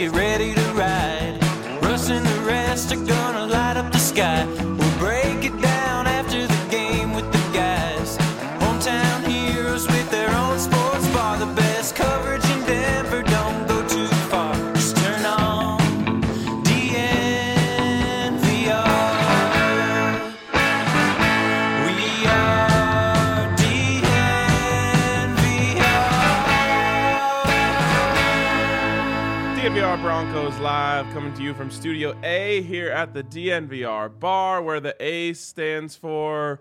get ready to ride. Russ and the rest are gonna light up the sky. We'll break it down after the game with the guys. Hometown heroes with their own sports bar. The best coverage in Denver, don't go too far. Just turn on DNVR. We are DNVR. DNVR Broncos Live, coming to you from Studio A here at the DNVR bar, where the A stands for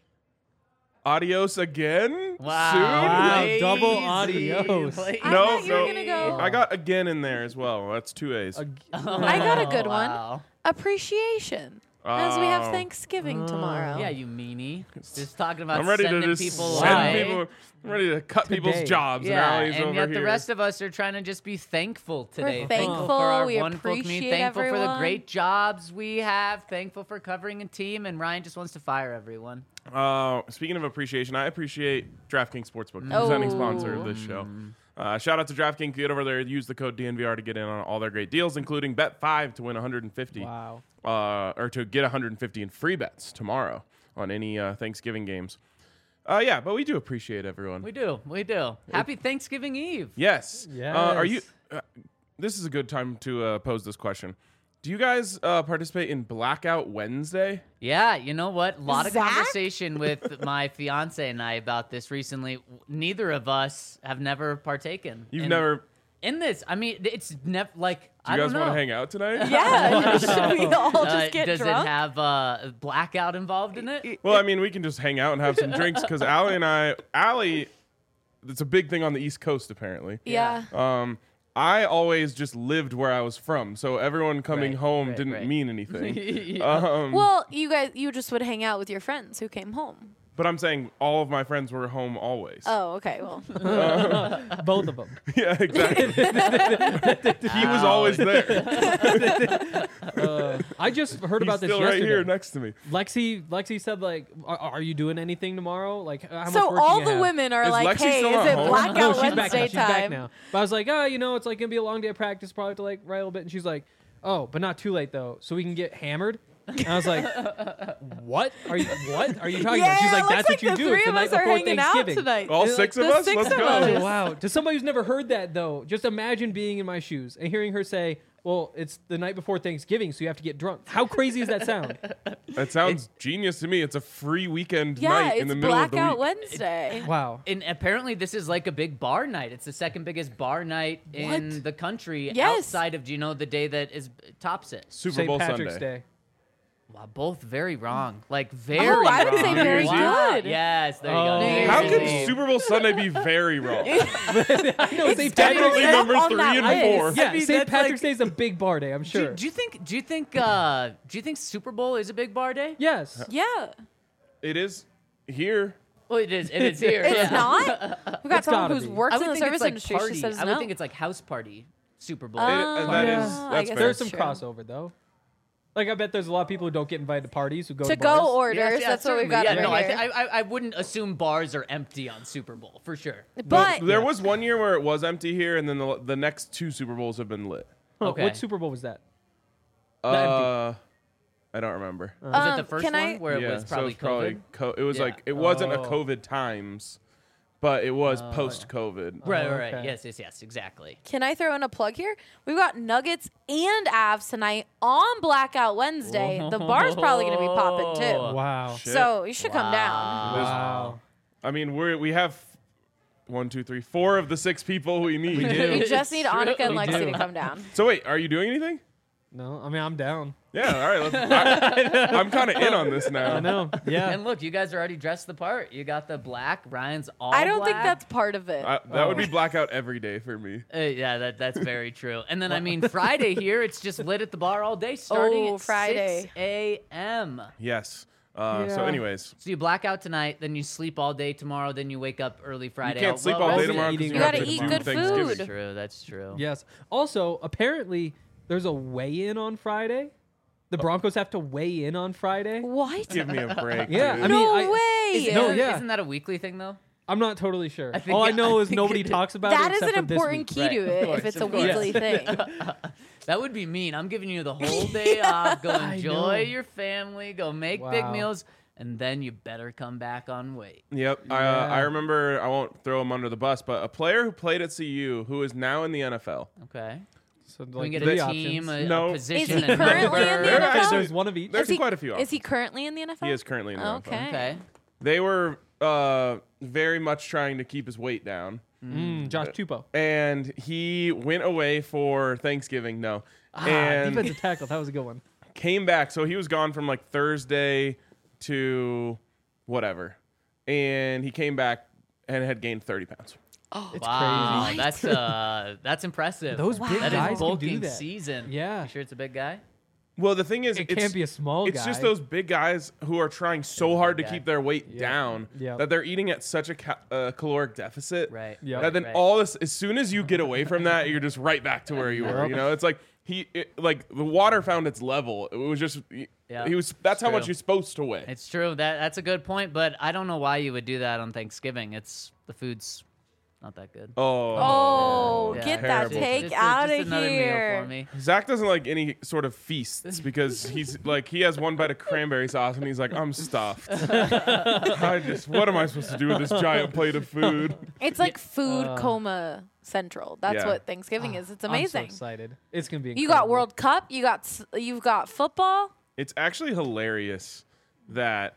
Adios again. Wow, Soon? double adios. I No, thought you were no. gonna go. I got again in there as well. That's 2 A's. I got a good one. Wow. Appreciation. As we have Oh. Thanksgiving tomorrow. Yeah, you meanie. Just talking about I'm ready to sending just people send away. people. I'm ready to cut people's Today. jobs. Yeah, and Allie's and over yet here. the rest of us are trying to just be thankful today. thankful, for our we wonderful community. appreciate Thankful for the everyone. great jobs we have. Thankful for covering a team. And Ryan just wants to fire everyone. Speaking of appreciation, I appreciate DraftKings Sportsbook, presenting sponsor of this show. Shout out to DraftKings. Get over there. Use the code DNVR to get in on all their great deals, including bet 5 to win 150. Wow. Or to get 150 in free bets tomorrow on any Thanksgiving games. Yeah, but we do appreciate everyone. We do. Happy Thanksgiving Eve. Yes. Yes. Are you? This is a good time to pose this question. Do you guys participate in Blackout Wednesday? Yeah, you know what? A lot of Zach? conversation with my fiance and I about this recently. Neither of us have never partaken. You've never. in this. I mean, it's never like Do I you guys don't know. want to hang out tonight? Yeah, should we all just get does drunk? it have blackout involved in it? Well, I mean, we can just hang out and have some drinks because Allie, it's a big thing on the East Coast apparently. Yeah. I always just lived where I was from, so everyone coming home didn't mean anything. Well, you just would hang out with your friends who came home. But I'm saying all of my friends were home always. Oh, okay. Well, Both of them. Yeah, exactly. He was always there. I just heard He's about this still yesterday. right here next to me. Lexi said, like, are you doing anything tomorrow? Like, how much so work all do you the have? women are Is like, Lexi "Hey, still is at it home? Blackout No, she's back now. Wednesday She's back time?" now. But I was like, it's like gonna be a long day of practice. Probably have to like write a little bit. And she's like, oh, but not too late though, so we can get hammered. And I was like, what are you talking about? She's like, that's what you the do. three It's the of night us are before hanging out Thanksgiving. tonight. All six of The us? six Let's of go. us. Wow. To somebody who's never heard that though, just imagine being in my shoes and hearing her say, well, it's the night before Thanksgiving, so you have to get drunk. How crazy does that sound? That sounds genius to me. It's a free weekend Yeah, night it's in the middle of the Blackout week. Wednesday. Wow. And apparently, this is like a big bar night. It's the second biggest bar night in What? the country Yes. outside of, do you know, the day that is tops it? Super St. Bowl Patrick's Sunday. Day. Wow, both very wrong. Like, very Oh, I would wrong. say very good. Yes, there you Oh. go. New Year's How could Eve. Super Bowl Sunday be very wrong? I know St. Definitely It's number on 3 that and list. 4. Yeah, mean, St. that's Patrick's like- Day is a big bar day, I'm sure. Do you think Super Bowl is a big bar day? Yes. Yeah. It is here. Well, it is. It is here. It's yeah. not? We got It's someone gotta who's be. works I in would the think service it's like industry. She party. says I would no. think it's like house party Super Bowl. that yeah. is- I that's guess fair. There's that's some true. crossover, though. Like, I bet there's a lot of people who don't get invited to parties who go To to bars. go orders. Yes, yeah, That's what we've certainly. got Yeah, over no, here. I wouldn't assume bars are empty on Super Bowl for sure. But There was one year where it was empty here, and then the next 2 Super Bowls have been lit. Oh, Okay. What Super Bowl was that? I don't remember. Was it the first can one I- where it was probably COVID? it was Yeah. like it wasn't a Oh. COVID times, but it was post COVID. Right, Oh, right, okay. yes, exactly. Can I throw in a plug here? We've got Nuggets and Avs tonight on Blackout Wednesday. The bar's probably going to be popping too. Wow. Shit. So you should come down. Wow. I mean, we have 1, 2, 3, 4 of the 6 people we need. We do. You just need Annika and We Lexi do. to come down. So wait, are you doing anything? No, I mean, I'm down. Yeah, all right. I'm kind of in on this now. I know. Yeah. And look, you guys are already dressed the part. You got the black. Ryan's all I don't think black. that's part of it. That would be blackout every day for me. Yeah, that's very true. And then, I mean, Friday here, it's just lit at the bar all day starting Oh, at Friday. 6 a.m. Yes. So Yeah. anyways, So you black out tonight, then you sleep all day tomorrow, then you wake up early Friday. you can't sleep Well, all day Rosie tomorrow eating- because You have gotta to eat do good Thanksgiving. food. That's true. That's true. Yes. Also, apparently, there's a weigh-in on Friday. The Broncos have to weigh in on Friday. What? Give me a break. Yeah, dude. I mean, No way. Isn't, No, that- yeah. Isn't that a weekly thing though? I'm not totally sure. I think- All I know is think nobody it- talks about it. That is except an for this important week. key Right, to of it course, if it's of a course. weekly thing. That would be mean. I'm giving you the whole day off. Go I enjoy know. your family. Go make big Wow. meals. And then you better come back on weight. Yep. Yeah. I remember, I won't throw him under the bus, but a player who played at CU who is now in the NFL. Okay. So Can we like get three a team, options. a No. position, Is he and currently in the number? They're NFL? actually- There's one of each. There's Is he- quite a few. Is he currently in the NFL? He is currently in the NFL. Okay. Okay. They were very much trying to keep his weight down. Josh Tupou. And he went away for Thanksgiving. No. And Defensive tackle. That was a good one. came back. So he was gone from like Thursday to whatever. And he came back and had gained 30 pounds. It's Wow, crazy. that's impressive. Those big That guys is can do bulking that. season. Yeah. You sure it's a big guy? Well, the thing is, It it's, can't be a small it's guy. just those big guys who are trying so hard to guy. keep their weight down Yep. that they're eating at such a caloric deficit. Right. Yep. That then right. all this, as soon as you get away from that, you're just right back to where you were. Yep. You know, it's like like the water found its level. It was just Yeah, he was. That's how true. much you're supposed to weigh. It's true. That's a good point, but I don't know why you would do that on Thanksgiving. The food's not that good. Oh, Yeah. get that Terrible. take Just out just of another meal here. for me. Zach doesn't like any sort of feasts because he's like he has one bite of cranberry sauce and he's like, I'm stuffed. What am I supposed to do with this giant plate of food? It's like food coma central. That's Yeah. what Thanksgiving is. It's amazing. I'm so excited. It's gonna be. You got incredible. World Cup. You've got football. It's actually hilarious that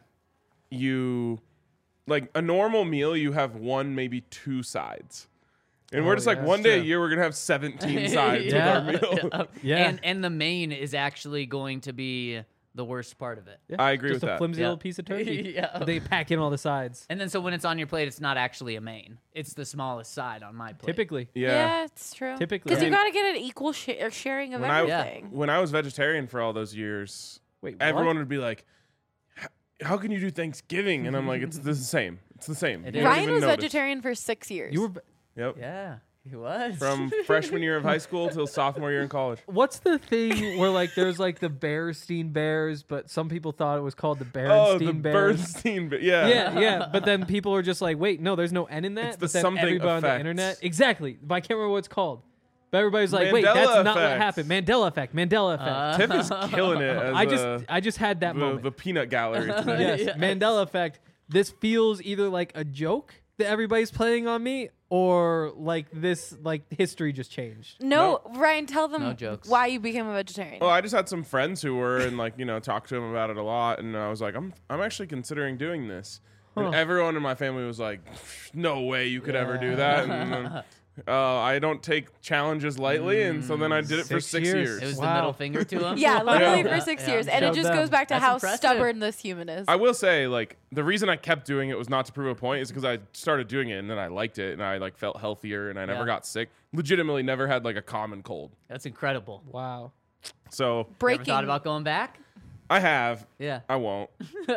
you like a normal meal you have one, maybe two sides. And we're Oh, just like yeah, one that's day a true. year we're gonna have 17 sides Yeah. with our meal. Yeah. And the main is actually going to be the worst part of it. Yeah, I agree just with a that. flimsy Yeah. little piece of turkey. Yeah. They pack in all the sides. And then so when it's on your plate, it's not actually a main. It's the smallest side on my plate. Typically. Yeah. it's true. Typically. because I you mean- got to get an equal sharing of When I- everything. When I was vegetarian for all those years, Wait, everyone would be like, how can you do Thanksgiving? And I'm like, it's the same. It's the same. It You is. don't Ryan even was notice. vegetarian for 6 years. You were. Yep. Yeah, he was. From freshman year of high school till sophomore year in college. What's the thing where like there's like the Bearstein Bears, but some people thought it was called the Oh, Berenstein the Bears? Bernstein. Yeah. Yeah, yeah. But then people were just like, wait, no, there's no N in that. It's the But then something everybody on the effect. internet. Exactly. But I can't remember what it's called. But everybody's like, wait, Mandela that's not what effect. happened. Mandela effect. Mandela effect. Tiff is killing it. As I just had that the, moment. the peanut gallery today. Yes, Mandela effect. This feels either like a joke that everybody's playing on me, or like this, like history just changed. no, Ryan, tell them No jokes. why you became a vegetarian. Well, I just had some friends who were and like talked to them about it a lot, and I was like, I'm actually considering doing this. And everyone in my family was like, no way you could ever do that. And then, I don't take challenges lightly, and so then I did it for 6 6 years. years. It was the Wow. middle finger to him. yeah, literally Yeah. for 6 Yeah. years, and it Showed just them. goes back to That's how impressive. stubborn this human is. I will say, like, the reason I kept doing it was not to prove a point. Is because I started doing it, and then I liked it, and I like felt healthier, and I never Yeah. got sick. Legitimately, never had like a common cold. That's incredible. Wow. So You ever Breaking. thought about going back? I have. Yeah. I won't.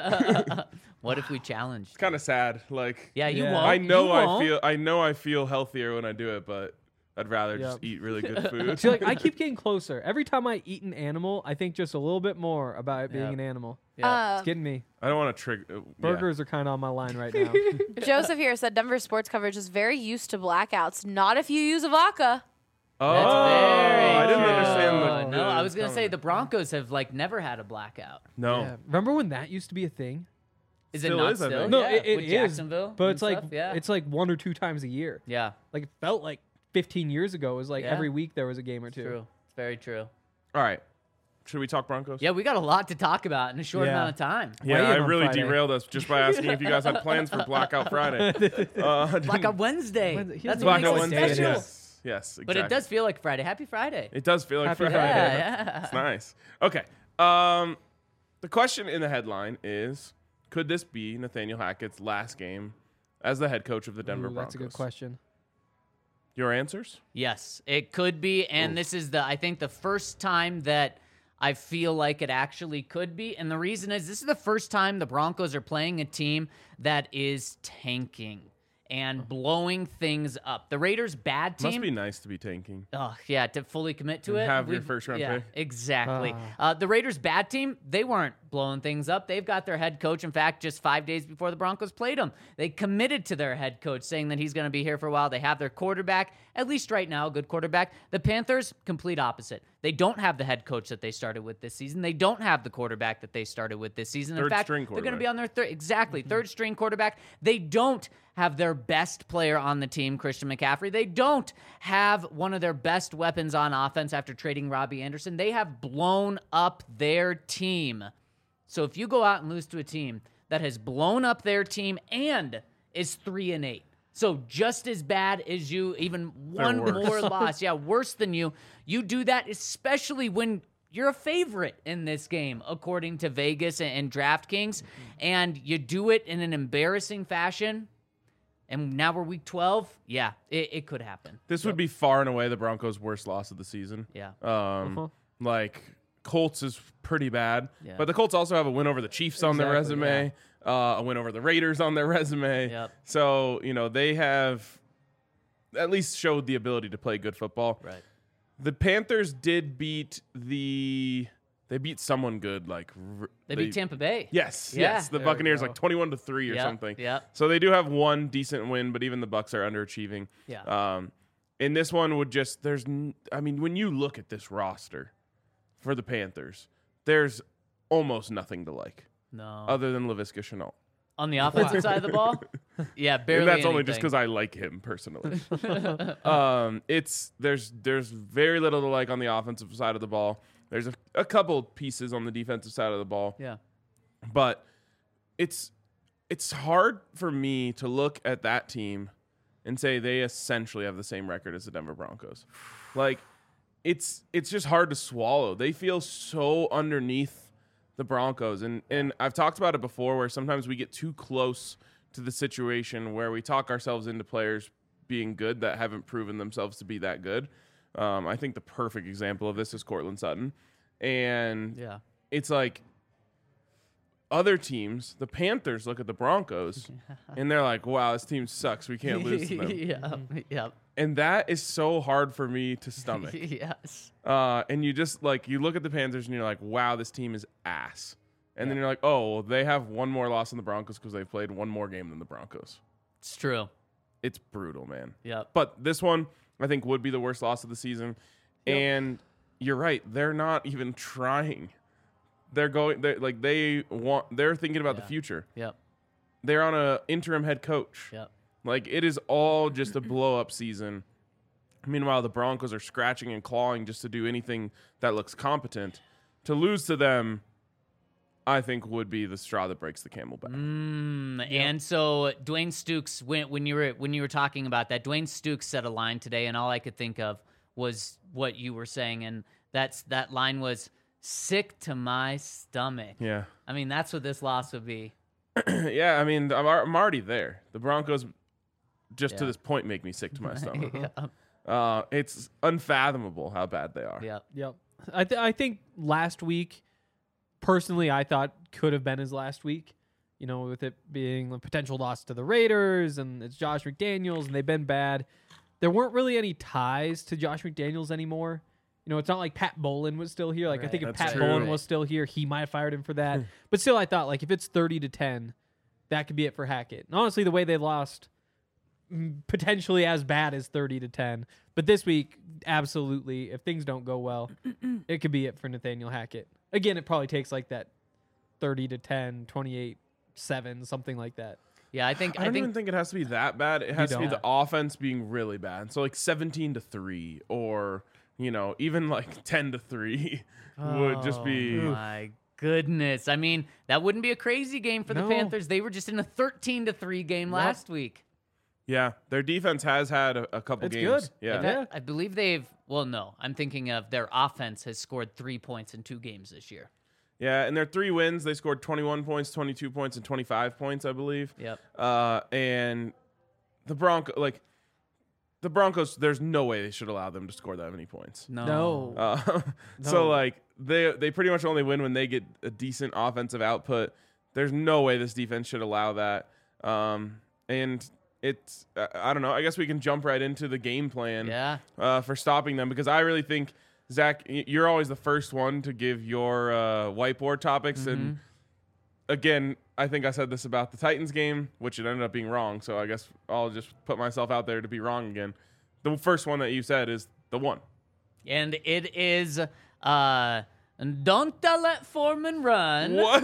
What if we challenged? Kind of sad. Like, Yeah, you Yeah. won't. I know You won't. I know I feel healthier when I do it, but I'd rather just Yep. eat really good food. See, like I keep getting closer. Every time I eat an animal, I think just a little bit more about it being Yep. an animal. Yeah. It's getting me. I don't want to trigger. Burgers are kind of on my line right now. Joseph here said Denver sports coverage is very used to blackouts. Not if you use a vodka. Oh, That's very I didn't true. understand. No, I was gonna say the Broncos have like never had a blackout. No. Yeah. Remember when that used to be a thing? Is Still it not is, I still? think. No, Yeah, it with is, Jacksonville, but and it's like stuff, yeah, it's like 1 or 2 times a year. yeah, Like it felt like 15 years ago. It was like Yeah. every week there was a game or two. true. It's very true. All right. Should we talk Broncos? Yeah, we got a lot to talk about in a short Yeah. amount of time. Yeah, Weigh I in on really Friday. derailed us just by asking if you guys had plans for Blackout Friday. Blackout Wednesday. Wednesday. He That's doesn't what Blackout know makes what it day it Wednesday. special. is. Yes, exactly. But it does feel like Friday. Happy Friday. It does feel like Happy Friday. Friday. Yeah, It's nice. Okay. The question in the headline is: could this be Nathaniel Hackett's last game as the head coach of the Denver Ooh, Broncos? that's a good question. Your answers? Yes, it could be, and this is I think the first time that I feel like it actually could be, and the reason is this is the first time the Broncos are playing a team that is tanking and blowing things up. The Raiders' bad team. Must be nice to be tanking. Oh, yeah, to fully commit to And it. have your first round yeah, pick. Exactly. The Raiders' bad team, they weren't blowing things up. They've got their head coach. In fact, just 5 days before the Broncos played them, they committed to their head coach, saying that he's going to be here for a while. They have their quarterback, at least right now, a good quarterback. The Panthers, complete opposite. They don't have the head coach that they started with this season. They don't have the quarterback that they started with this season. In fact, they're going to be on their third string quarterback. They don't have their best player on the team, Christian McCaffrey. They don't have one of their best weapons on offense after trading Robbie Anderson. They have blown up their team. So if you go out and lose to a team that has blown up their team and is 3-8, so just as bad as you, even one more loss, worse than you, you do that, especially when you're a favorite in this game, according to Vegas and DraftKings, and you do it in an embarrassing fashion. And now we're week 12. Yeah, it could happen. This would be far and away the Broncos' worst loss of the season. Yeah. Like Colts is pretty bad, Yeah. but the Colts also have a win over the Chiefs on their resume, a win over the Raiders on their resume. Yep. So, they have at least showed the ability to play good football. Right. The Panthers did beat someone good. They beat Tampa Bay. Yes, Yeah. yes. The There we Buccaneers go. 21-3 or Yep, something. yep. So they do have one decent win, but even the Bucs are underachieving. Yeah. And this one would just when you look at this roster for the Panthers, there's almost nothing to like No. other than Laviska Shenault. On the offensive side of the ball? Yeah, barely And that's only just anything. because I like him personally. There's very little to like on the offensive side of the ball. There's a couple pieces on the defensive side of the ball. Yeah. But it's hard for me to look at that team and say they essentially have the same record as the Denver Broncos. It's just hard to swallow. They feel so underneath the Broncos. And I've talked about it before where sometimes we get too close to the situation where we talk ourselves into players being good that haven't proven themselves to be that good. I think the perfect example of this is Courtland Sutton. And Yeah. it's like other teams, the Panthers look at the Broncos and they're like, wow, this team sucks. We can't lose to them. Yeah. Yep. And that is so hard for me to stomach. Yes. And you just you look at the Panthers and you're like, wow, this team is ass. And then you're like, oh, well, they have one more loss than the Broncos because they've played one more game than the Broncos. It's true. It's brutal, man. Yep. But this one, I think, would be the worst loss of the season. Yep. And you're right. They're not even trying. They're thinking about the future. Yep. They're on an interim head coach. Yep. It is all just a blow-up season. Meanwhile, the Broncos are scratching and clawing just to do anything that looks competent. To lose to them, I think, would be the straw that breaks the camel back. And so Dwayne Stukes, when you were talking about that, Dwayne Stukes said a line today, and all I could think of was what you were saying, and that line was sick to my stomach. Yeah. I mean, that's what this loss would be. Yeah, I mean, I'm already there. The Broncos, just to Yeah. this point, make me sick to my stomach. Yeah. It's unfathomable how bad they are. Yep. Yep. I think last week, personally, I thought could have been his last week. With it being a potential loss to the Raiders, and it's Josh McDaniels, and they've been bad. There weren't really any ties to Josh McDaniels anymore. It's not like Pat Bowlen was still here. I Right. think if That's Pat true. Bowlen was still here, he might have fired him for that. But still, I thought if it's 30-10, that could be it for Hackett. And honestly, the way they lost, potentially as bad as 30-10. But this week, absolutely, if things don't go well, it could be it for Nathaniel Hackett. Again, it probably takes that 30-10, 28-7, something like that. Yeah, I think I don't even think it has to be that bad. It has to be don't? the offense being really bad. So 17-3 or, even 10-3 would just be. Oh my goodness. I mean, that wouldn't be a crazy game for the No. Panthers. They were just in a 13-3 game last week. Yeah, their defense has had a couple It's games. good. Yeah. Yeah. I believe I'm thinking of their offense has scored 3 points in 2 games this year. Yeah, and their 3 wins, they scored 21 points, 22 points, and 25 points, I believe. Yep. And the Broncos, there's no way they should allow them to score that many points. No. So they pretty much only win when they get a decent offensive output. There's no way this defense should allow that. And it's I don't know. I guess we can jump right into the game plan Yeah. for stopping them because I really think Zach, you're always the first one to give your whiteboard topics. And again, I think I said this about the Titans game, which it ended up being wrong. So I guess I'll just put myself out there to be wrong again. The first one that you said is the one. And it is don't let Foreman run. What?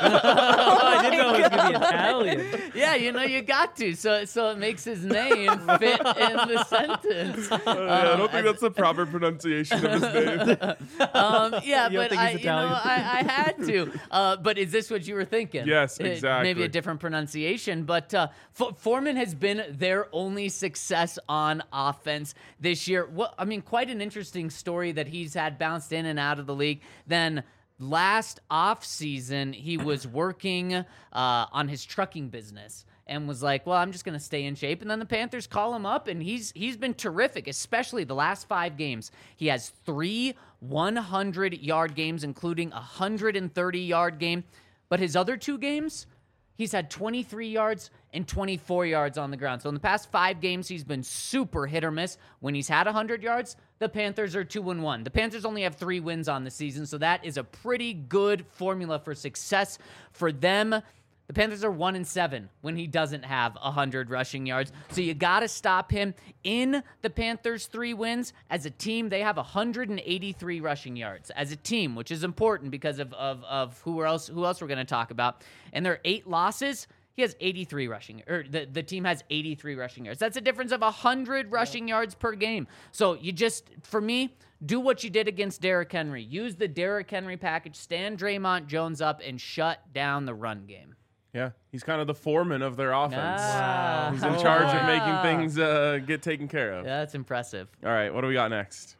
I didn't know it was going to be Italian. Yeah, you got to. So it makes his name fit in the sentence. I don't think that's the proper pronunciation of his name. Yeah, You don't but think he's Italian? I had to. But is this what you were thinking? Yes, exactly. Maybe a different pronunciation. But Foreman has been their only success on offense this year. Quite an interesting story that he's had bounced in and out of the league. Then last offseason, he was working on his trucking business and was like, well, I'm just going to stay in shape. And then the Panthers call him up, and he's been terrific, especially the last 5 games. He has 3 100-yard games, including a 130-yard game. But his other 2 games, he's had 23 yards and 24 yards on the ground. So in the past 5 games, he's been super hit or miss. When he's had 100 yards, the Panthers are 2-1. The Panthers only have 3 wins on the season, so that is a pretty good formula for success for them. The Panthers are 1-7 when he doesn't have 100 rushing yards. So you got to stop him. In the Panthers' 3 wins, as a team, they have 183 rushing yards as a team, which is important because of who else we're going to talk about. And their 8 losses, he has 83 rushing, or the team has 83 rushing yards. That's a difference of 100 rushing yards per game. So you just, for me, do what you did against Derrick Henry. Use the Derrick Henry package, stand Draymond Jones up, and shut down the run game. Yeah, he's kind of the foreman of their offense. Wow. He's in charge of making things get taken care of. Yeah, that's impressive. All right, what do we got next?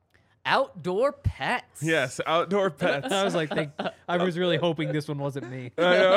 Outdoor pets. Yes, outdoor pets. I was like, I was really hoping this one wasn't me.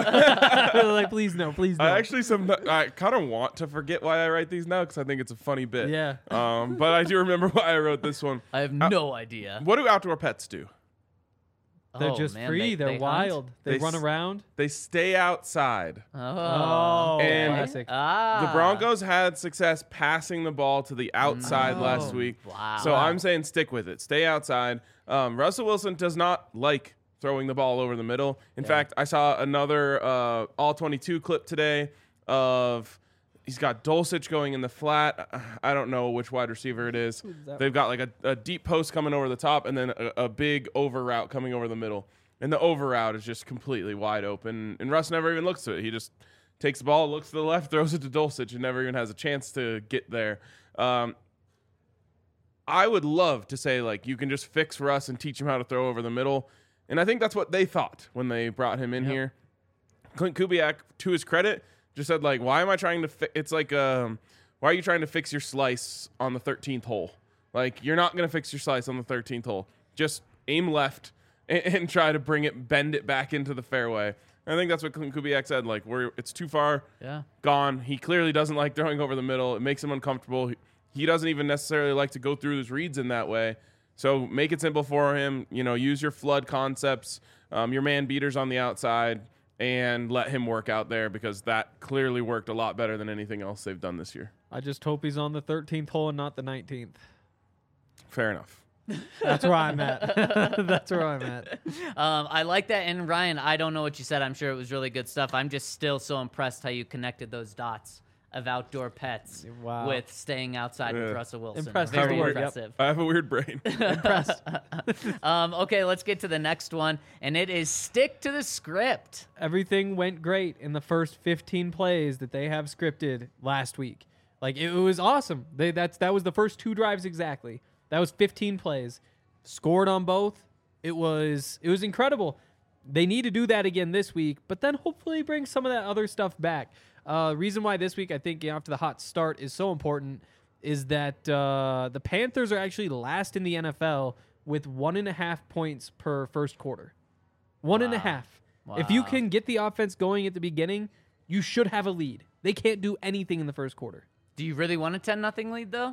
Like, please no, please no. I kind of want to forget why I write these now because I think it's a funny bit. Yeah. But I do remember why I wrote this one. I have no idea. What do outdoor pets do? They're just man, free. They're hunt? wild. They run s- around. They stay outside. Oh, And- classic. The Broncos had success passing the ball to the outside last week. Wow. So I'm saying stick with it. Stay outside. Russell Wilson does not like throwing the ball over the middle. In fact, I saw another All-22 clip today of he's got Dulcich going in the flat. I don't know which wide receiver it is. They've got like a deep post coming over the top and then a big over route coming over the middle. And the over route is just completely wide open. And Russ never even looks to it. He just takes the ball, looks to the left, throws it to Dulcich, and never even has a chance to get there. I would love to say, like, you can just fix Russ and teach him how to throw over the middle. And I think that's what they thought when they brought him in here. Clint Kubiak, to his credit, just said, like, why am I trying to it's like, why are you trying to fix your slice on the 13th hole? Like, you're not going to fix your slice on the 13th hole. Just aim left and try to bend it back into the fairway. And I think that's what Clint Kubiak said. Like, it's too far gone. He clearly doesn't like throwing over the middle. It makes him uncomfortable. He doesn't even necessarily like to go through his reads in that way. So make it simple for him. You know, use your flood concepts, your man beaters on the outside, and let him work out there because that clearly worked a lot better than anything else they've done this year. I just hope he's on the 13th hole and not the 19th. Fair enough. That's where I'm at. That's where I'm at. I like that. And Ryan, I don't know what you said. I'm sure it was really good stuff. I'm just still so impressed how you connected those dots of outdoor pets Wow. with staying outside with Russell Wilson. Impressive. Very Yep. impressive. I have a weird brain. Impressed. Okay, let's get to the next one, and it is stick to the script. Everything went great in the first 15 plays that they have scripted last week. Like, it was awesome. That was the first 2 drives exactly. That was 15 plays. Scored on both. It was incredible. They need to do that again this week, but then hopefully bring some of that other stuff back. Reason why this week I think after the hot start is so important is that the Panthers are actually last in the NFL with 1.5 points per first quarter. 1.5. If you can get the offense going at the beginning, you should have a lead. They can't do anything in the first quarter. Do you really want a 10-0 lead, though?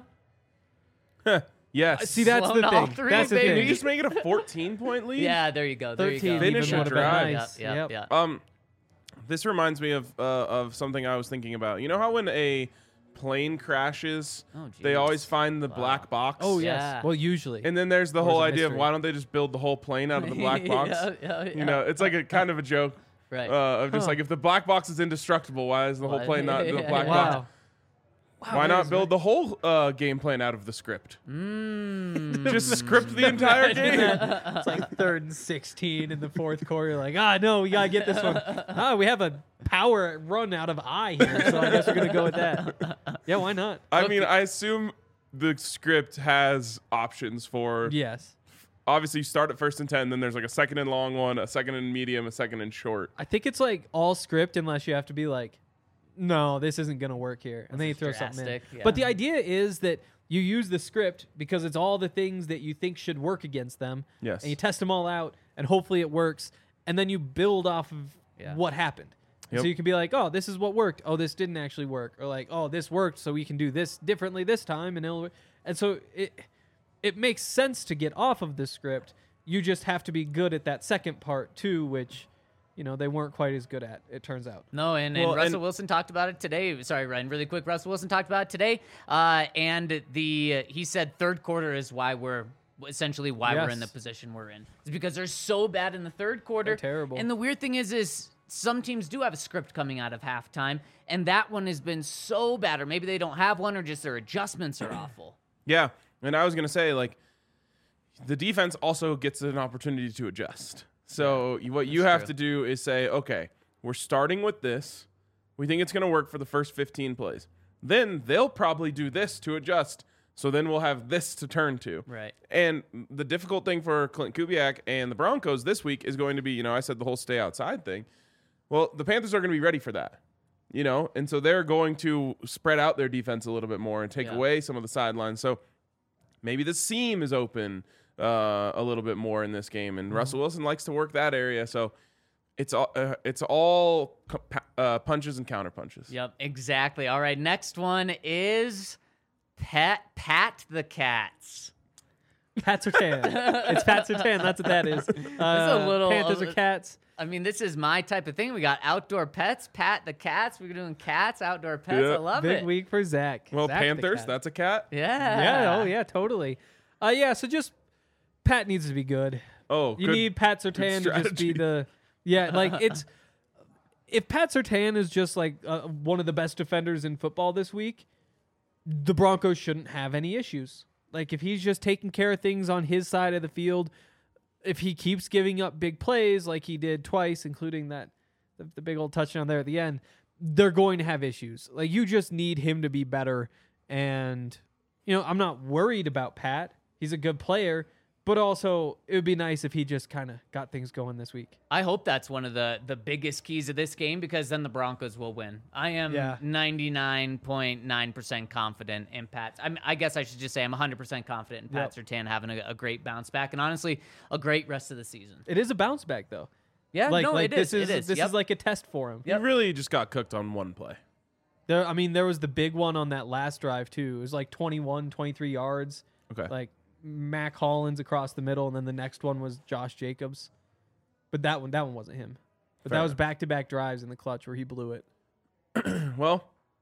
Yes. See, that's Sloan the all thing. three, That's the baby. Can you thing. just make it a 14-point lead? Yeah, there you go. There you 13 go. Finish even a would have been drive. nice. Yep. Yep. Yeah. This reminds me of something I was thinking about. You know how when a plane crashes, Oh, they geez. always find the black box. Oh yes. Yeah. Well, usually. And then there's the Or is whole it idea of mystery? why don't they just build the whole plane out of the black box? Yeah. You know, it's like a kind of a joke Right. of just Huh. like if the black box is indestructible, why is the whole Why- plane not the Yeah. black box? wow. Why that not is build the whole game plan out of the script? Just script the entire game. It's like 3rd and 16 in the 4th quarter. Like, no, we gotta get this one. We have a power run out of I here, so I guess we're gonna go with that. Yeah, why not? I mean, I assume the script has options for. Yes. Obviously, you start at 1st and 10, then there's like a 2nd and long one, a 2nd and medium, a 2nd and short. I think it's like all script unless you have to be like, no, this isn't gonna work here, and then you is throw something in. drastic, But the yeah. idea is that you use the script because it's all the things that you think should work against them. Yes. And you test them all out, and hopefully it works, and then you build off of Yeah. what happened. And Yep. so you can be like, oh, this is what worked. Oh, this didn't actually work. Or like, oh, this worked, so we can do this differently this time, and so it makes sense to get off of the script. You just have to be good at that second part too, which, they weren't quite as good at, it turns out. No, and Well, Russell and- Wilson talked about it today. Sorry, Ryan, really quick. Russell Wilson talked about it today, and he said third quarter is why we're essentially why we're in the Yes. position we're in. It's because they're so bad in the third quarter. They're terrible. And the weird thing is some teams do have a script coming out of halftime, and that one has been so bad, or maybe they don't have one, or just their adjustments are awful. Yeah, and I was gonna say like, the defense also gets an opportunity to adjust. So what you have true. to do is say, okay, we're starting with this. We think it's gonna work for the first 15 plays. Then they'll probably do this to adjust. So then we'll have this to turn to. Right. And the difficult thing for Clint Kubiak and the Broncos this week is going to be, I said the whole stay outside thing. Well, the Panthers are going to be ready for that, and so they're going to spread out their defense a little bit more and take Yeah. away some of the sidelines. So maybe the seam is open a little bit more in this game, and Russell Wilson likes to work that area. So it's all punches and counter punches. Yep, exactly. All right, next one is Pat the Cats. Pat Surtain. It's Pat Surtain. That's what that is. a little- Panthers or Cats. I mean, this is my type of thing. We got outdoor pets, Pat the Cats. We're doing cats, outdoor pets. Yeah. I love Big it. week for Zach. Well, Zach the Panthers, Cat. that's a cat. Yeah. Yeah. Oh yeah. Totally. So just Pat needs to be good. Oh, You good. need Pat Surtain to just be strategy. it's if Pat Surtain is just like one of the best defenders in football this week, the Broncos shouldn't have any issues. Like if he's just taking care of things on his side of the field, if he keeps giving up big plays like he did twice, including that the big old touchdown there at the end, they're going to have issues. Like you just need him to be better. And I'm not worried about Pat. He's a good player. But also, it would be nice if he just kind of got things going this week. I hope that's one of the biggest keys of this game, because then the Broncos will win. I am Yeah. 99.9% confident in Pat. I guess I should just say I'm 100% confident in Pat Surtain having a great bounce back, and honestly, a great rest of the season. It is a bounce back, though. Yeah, it this is. This Yep. is like a test for him. He really just got cooked on one play. There was the big one on that last drive, too. It was like 21, 23 yards. Okay. Like Mac Hollins across the middle, and then the next one was Josh Jacobs. But that one wasn't him. But Fair that was enough. back-to-back drives in the clutch where he blew it. Well,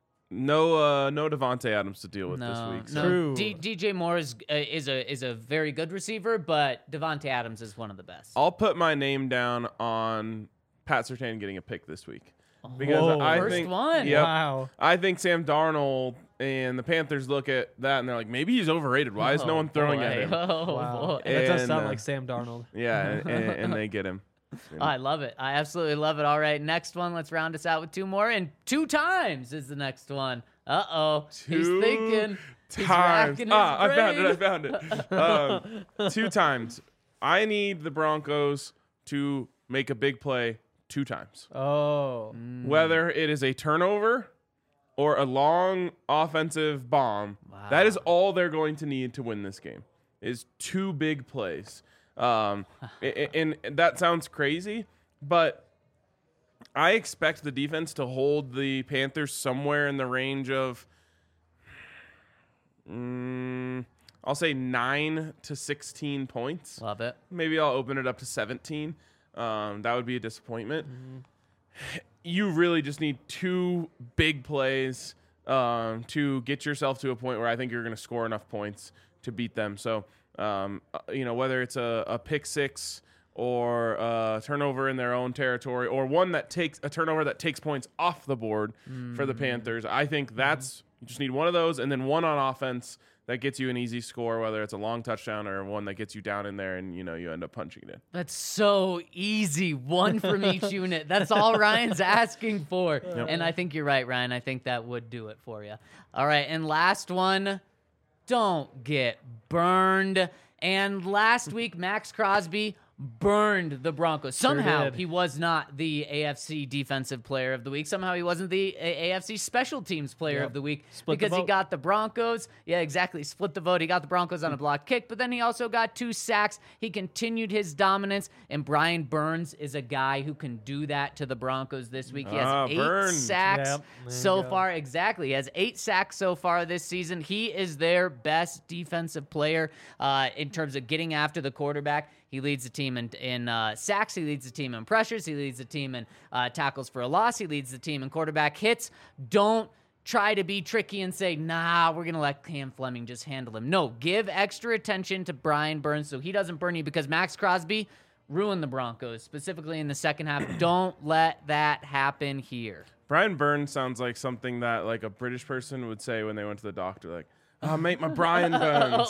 no Devontae Adams to deal with this No, week. no. So. True. DJ Moore is a very good receiver, but Devontae Adams is one of the best. I'll put my name down on Pat Surtain getting a pick this week. Because Whoa. I First think, one. Yep, Wow. I think Sam Darnold and the Panthers look at that and they're like, maybe he's overrated. Why is no one throwing at him? Oh, Wow. boy. That does And, sound like Sam Darnold. Yeah, and they get him. I love it. I absolutely love it. All right, next one. Let's round us out with two more. And 2 times is the next one. Uh-oh. He's Two thinking. He's times. racking his I found brain. it. 2 times. I need the Broncos to make a big play 2 times. Oh. Whether it is a turnover or a long offensive bomb, that is all they're going to need to win this game, is 2 big plays. And that sounds crazy, but I expect the defense to hold the Panthers somewhere in the range of, I'll say 9 to 16 points. Love it. Maybe I'll open it up to 17. That would be a disappointment. You really just need 2 big plays to get yourself to a point where I think you're going to score enough points to beat them. So, whether it's a pick six or a turnover in their own territory, or a turnover that takes points off the board for the Panthers, I think you just need one of those, and then one on offense that gets you an easy score, whether it's a long touchdown or one that gets you down in there and, you end up punching it in. That's so easy. One from each unit. That's all Ryan's asking for. Yep. And I think you're right, Ryan. I think that would do it for you. All right, and last one, don't get burned. And last week, Max Crosby burned the Broncos. Somehow did. he was not the AFC Defensive Player of the Week. Somehow he wasn't the AFC Special Teams Player of the Week because he got the Broncos. Yeah, exactly. Split the vote. He got the Broncos on a block kick, but then he also got 2 sacks. He continued his dominance, and Brian Burns is a guy who can do that to the Broncos this week. He has 8 sacks so far. Exactly. He has 8 sacks so far this season. He is their best defensive player in terms of getting after the quarterback. He leads the team in sacks. He leads the team in pressures. He leads the team in tackles for a loss. He leads the team in quarterback hits. Don't try to be tricky and say, nah, we're going to let Cam Fleming just handle him. No, give extra attention to Brian Burns so he doesn't burn you, because Max Crosby ruined the Broncos, specifically in the second half. Don't let that happen here. Brian Burns sounds like something that like a British person would say when they went to the doctor, like, "Oh, mate, my Brian Burns."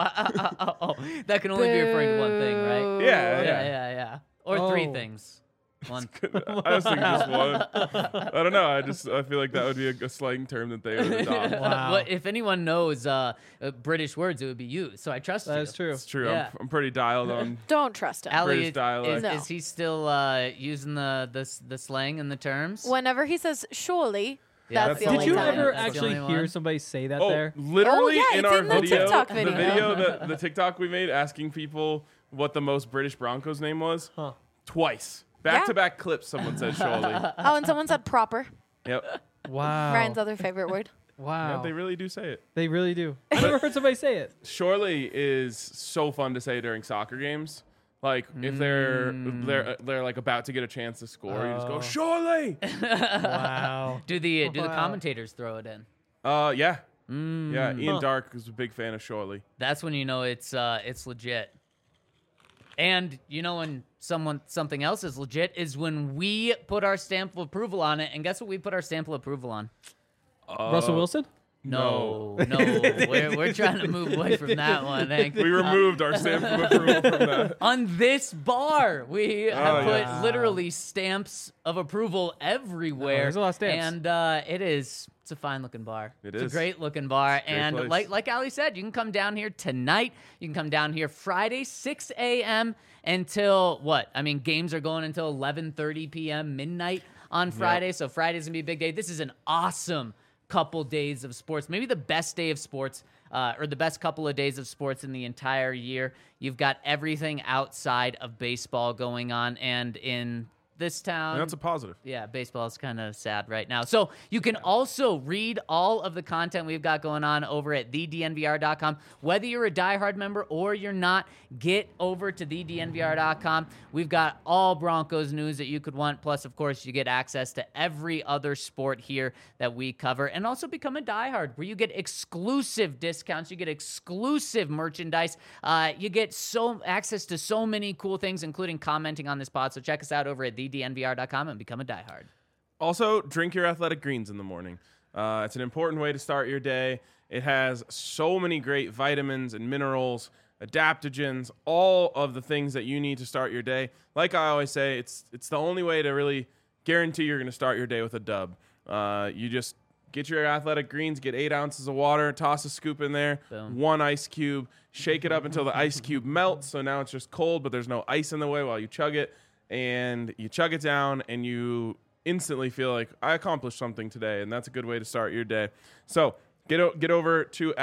That can only be referring to one thing, right? Yeah. Or 3 things. One. I was thinking just one. I don't know. I feel like that would be a slang term that they would adopt. Wow. Well, if anyone knows British words, it would be you. So I trust you. That's true. It's true. Yeah. I'm pretty dialed on. Don't trust him. Allie, British dialect. is he still using the slang and the terms? Whenever he says surely, Yeah, that's the that's Did only you time. ever That's the actually only hear one. somebody say that Oh, there? literally Oh, yeah, in it's our in the video, TikTok video. the TikTok we made asking people what the most British Broncos name was. Huh. Twice. Back-to-back clips, someone said surely. Oh, and someone said proper. Yep. Wow. Ryan's other favorite word. Wow. Yeah, they really do say it. They really do. I never heard somebody say it. Surely is so fun to say during soccer games. Like if they're like about to get a chance to score, you just go surely. Wow. Do the Wow. commentators throw it in? Yeah. Yeah, Ian Dark is a big fan of surely. That's when you know it's legit. And you know when something else is legit is when we put our stamp of approval on it. And guess what we put our stamp of approval on? Russell Wilson? No. We're trying to move away from that one, Hank. We removed our stamp of approval from that. On this bar, we have put yeah. literally stamps of approval everywhere. there's a lot of stamps. And it's a fine-looking bar. It It's is. a great-looking bar. great And place. like Ali said, you can come down here tonight. You can come down here Friday, 6 a.m. until what? I mean, games are going until 11:30 p.m., midnight on Friday. So Friday's going to be a big day. This is an awesome couple days of sports, maybe the best day of sports, or the best couple of days of sports in the entire year. You've got everything outside of baseball going on, and in this town, And that's a positive. yeah, baseball is kind of sad right now. So you can also read all of the content we've got going on over at thednvr.com. Whether you're a diehard member or you're not, get over to thednvr.com. We've got all Broncos news that you could want. Plus, of course, you get access to every other sport here that we cover. And also become a diehard, where you get exclusive discounts. You get exclusive merchandise. You get access to so many cool things, including commenting on this pod. So check us out over at thednvr.com and become a diehard. Also, drink your Athletic Greens in the morning. It's an important way to start your day. It has so many great vitamins and minerals, adaptogens, all of the things that you need to start your day. Like I always say, it's the only way to really guarantee you're going to start your day with a dub. You just get your Athletic Greens, get 8 ounces of water, toss a scoop in there, Boom. 1 ice cube, shake it up until the ice cube melts. So now it's just cold, but there's no ice in the way while you chug it. And you chug it down, and you instantly feel like, I accomplished something today, and that's a good way to start your day. So get over to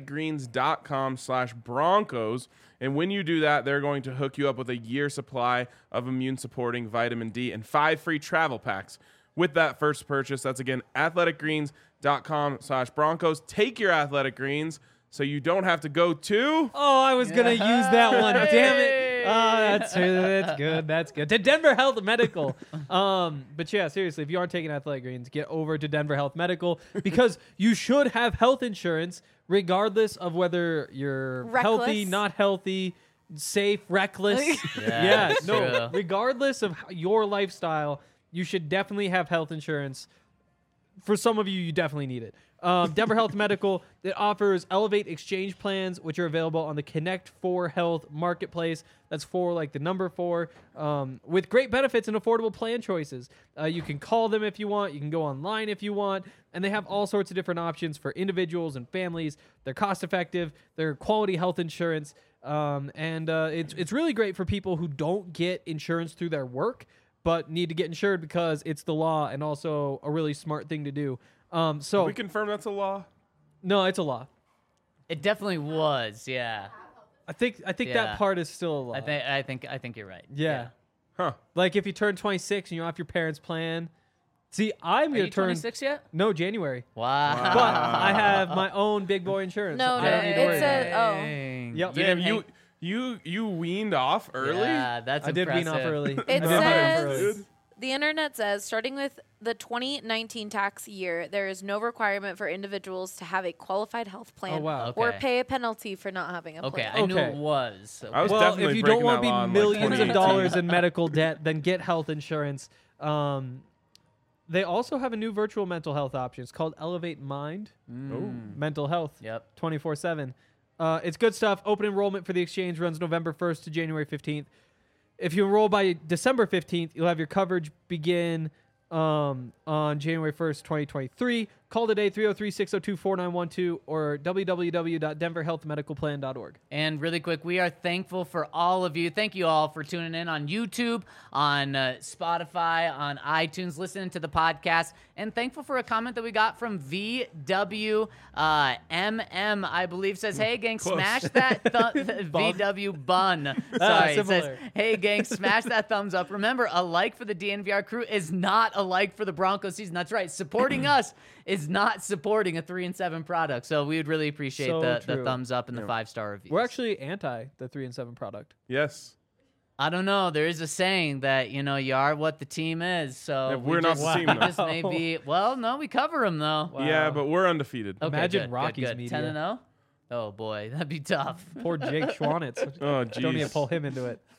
athleticgreens.com/Broncos, and when you do that, they're going to hook you up with a year supply of immune-supporting vitamin D and 5 free travel packs with that first purchase. That's, again, athleticgreens.com/Broncos. Take your Athletic Greens so you don't have to go to... Oh, I was going to use that one. Damn it. That's good. That's good. To Denver Health Medical. But yeah, seriously, if you aren't taking Athletic Greens, get over to Denver Health Medical because you should have health insurance regardless of whether you're healthy, not healthy, safe, reckless. Yeah, that's no, true. regardless of your lifestyle, you should definitely have health insurance. For some of you, you definitely need it. Denver Health Medical, it offers Elevate Exchange plans, which are available on the Connect 4 Health Marketplace. That's 4 like the number 4, with great benefits and affordable plan choices. You can call them if you want. You can go online if you want. And they have all sorts of different options for individuals and families. They're cost-effective. They're quality health insurance. It's really great for people who don't get insurance through their work, but need to get insured because it's the law and also a really smart thing to do. So we confirm that's a law. No, it's a law. It definitely was. Yeah. I think Yeah. that part is still a law. I think you're right. Yeah. Huh. Like if you turn 26 and you're off your parents' plan. See, I'm Are gonna you turn 26 yet? No, January. Wow. But I have my own big boy insurance. No, I don't need to it worry about it. says- oh. Dang. Yep. You Damn, didn't you weaned off early? Yeah, that's I did wean off impressive. early. It I did wean off says early. the internet says starting with the 2019 tax year, there is no requirement for individuals to have a qualified health plan Oh, wow. or Okay. pay a penalty for not having a Okay, plan. I knew Okay. it was. I was Well, definitely if you breaking don't want to that law be in, millions of 2018. dollars in medical debt, then get health insurance. They also have a new virtual mental health option. It's called Elevate Mind Mental Health. Yep. 24/7. It's good stuff. Open enrollment for the exchange runs November 1st to January 15th. If you enroll by December 15th, you'll have your coverage begin on January 1st, 2023. Call today, 303-602-4912 or www.denverhealthmedicalplan.org. And really quick, we are thankful for all of you. Thank you all for tuning in on YouTube, on Spotify, on iTunes, listening to the podcast. And thankful for a comment that we got from VWMM, I believe, says, hey, gang, smash that VW bun. Sorry, it says, similar. hey, gang, smash that thumbs up. Remember, a like for the DNVR crew is not a like for the Broncos season. That's right. Supporting us is not supporting a 3-7 product. So we would really appreciate So the true. thumbs up and the 5-star reviews. We're actually anti the 3-7 product. Yes. I don't know. There is a saying that, you are what the team is. So Yeah, we we're not just, the team, we though. just may be. Well, no, we cover them though. Yeah, but we're undefeated. Okay, Imagine good, Rocky's good. media. 10-0. Oh boy, that'd be tough. Poor Jake Schwanitz. Oh, Don't need to jeez. pull him into it.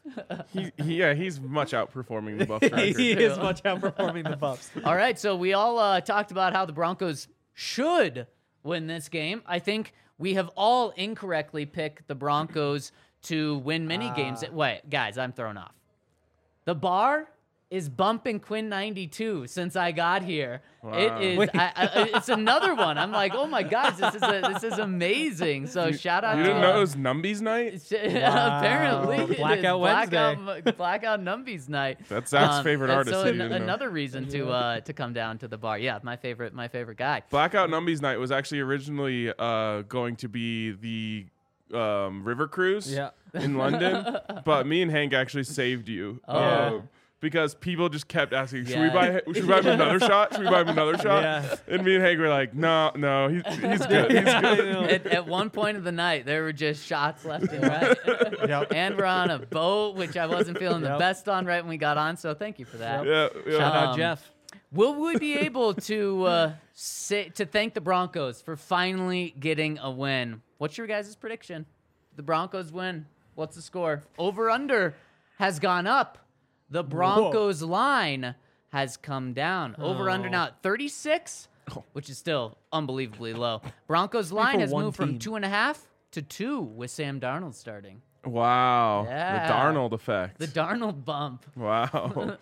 He's much outperforming the Buffs record. He is much outperforming the Buffs. All right, so we all talked about how the Broncos should win this game. I think we have all incorrectly picked the Broncos to win many games. Wait, guys, I'm thrown off. The bar is bumping Quinn 92 since I got here. Wow. It is. It's another one. I'm like, oh my gosh, this is amazing. So shout out You to didn't know it was Numbies night? apparently it is Blackout Wednesday. Blackout Numbies night. That's Zach's favorite and artist, So so you didn't know. another reason to come down to the bar. Yeah, my favorite guy. Blackout Numbies night was actually originally going to be the river cruise Yeah. in London, but me and Hank actually saved you. Oh. Because people just kept asking, should we Yeah. buy him another shot? Should we buy him another shot? Yeah. And me and Hank were like, no, he's good. He's Yeah, I good. know. At one point of the night, there were just shots left and right. Yep. And we're on a boat, which I wasn't feeling the Yep. best on right when we got on. So thank you for that. Yeah, yeah. Shout out Um, Jeff. Will we be able to to thank the Broncos for finally getting a win? What's your guys' prediction? The Broncos win. What's the score? Over under has gone up. The Broncos line has come down. Over under now at 36, which is still unbelievably low. Broncos line for has one moved from team. 2.5 to 2 with Sam Darnold starting. Wow. Yeah. The Darnold effect. The Darnold bump. Wow.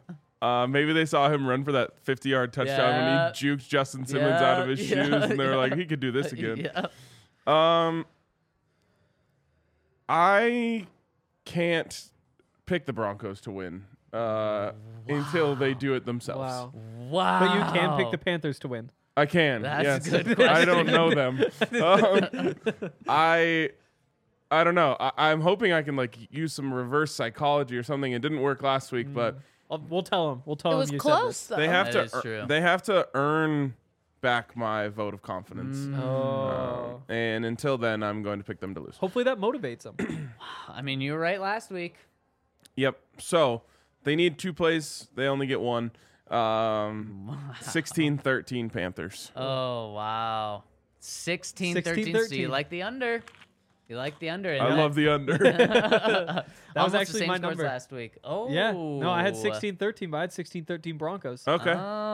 Maybe they saw him run for that 50-yard touchdown when Yeah. he juked Justin Simmons out of his Yeah, shoes, and they were yeah. like, he could do this again. Yeah. I can't pick the Broncos to win until they do it themselves. Wow. Wow. But you can pick the Panthers to win. I can. That's a yes. good I don't question. know them. I don't know. I'm hoping I can use some reverse psychology or something. It didn't work last week, but We'll tell him. We'll tell It him was you close, though. they have That is to true. they have to earn back my vote of confidence. Oh. And until then, I'm going to pick them to lose. Hopefully that motivates them. I mean, you were right last week. Yep. So they need 2 plays. They only get 1. 16-13 Panthers. Oh, wow. 16-13. So 16-13. you like the under. You like the under. I love the under. That was Almost the actually same my scores number. last week. Oh. Yeah. No, I had 16-13, but I had 16-13 Broncos. Okay.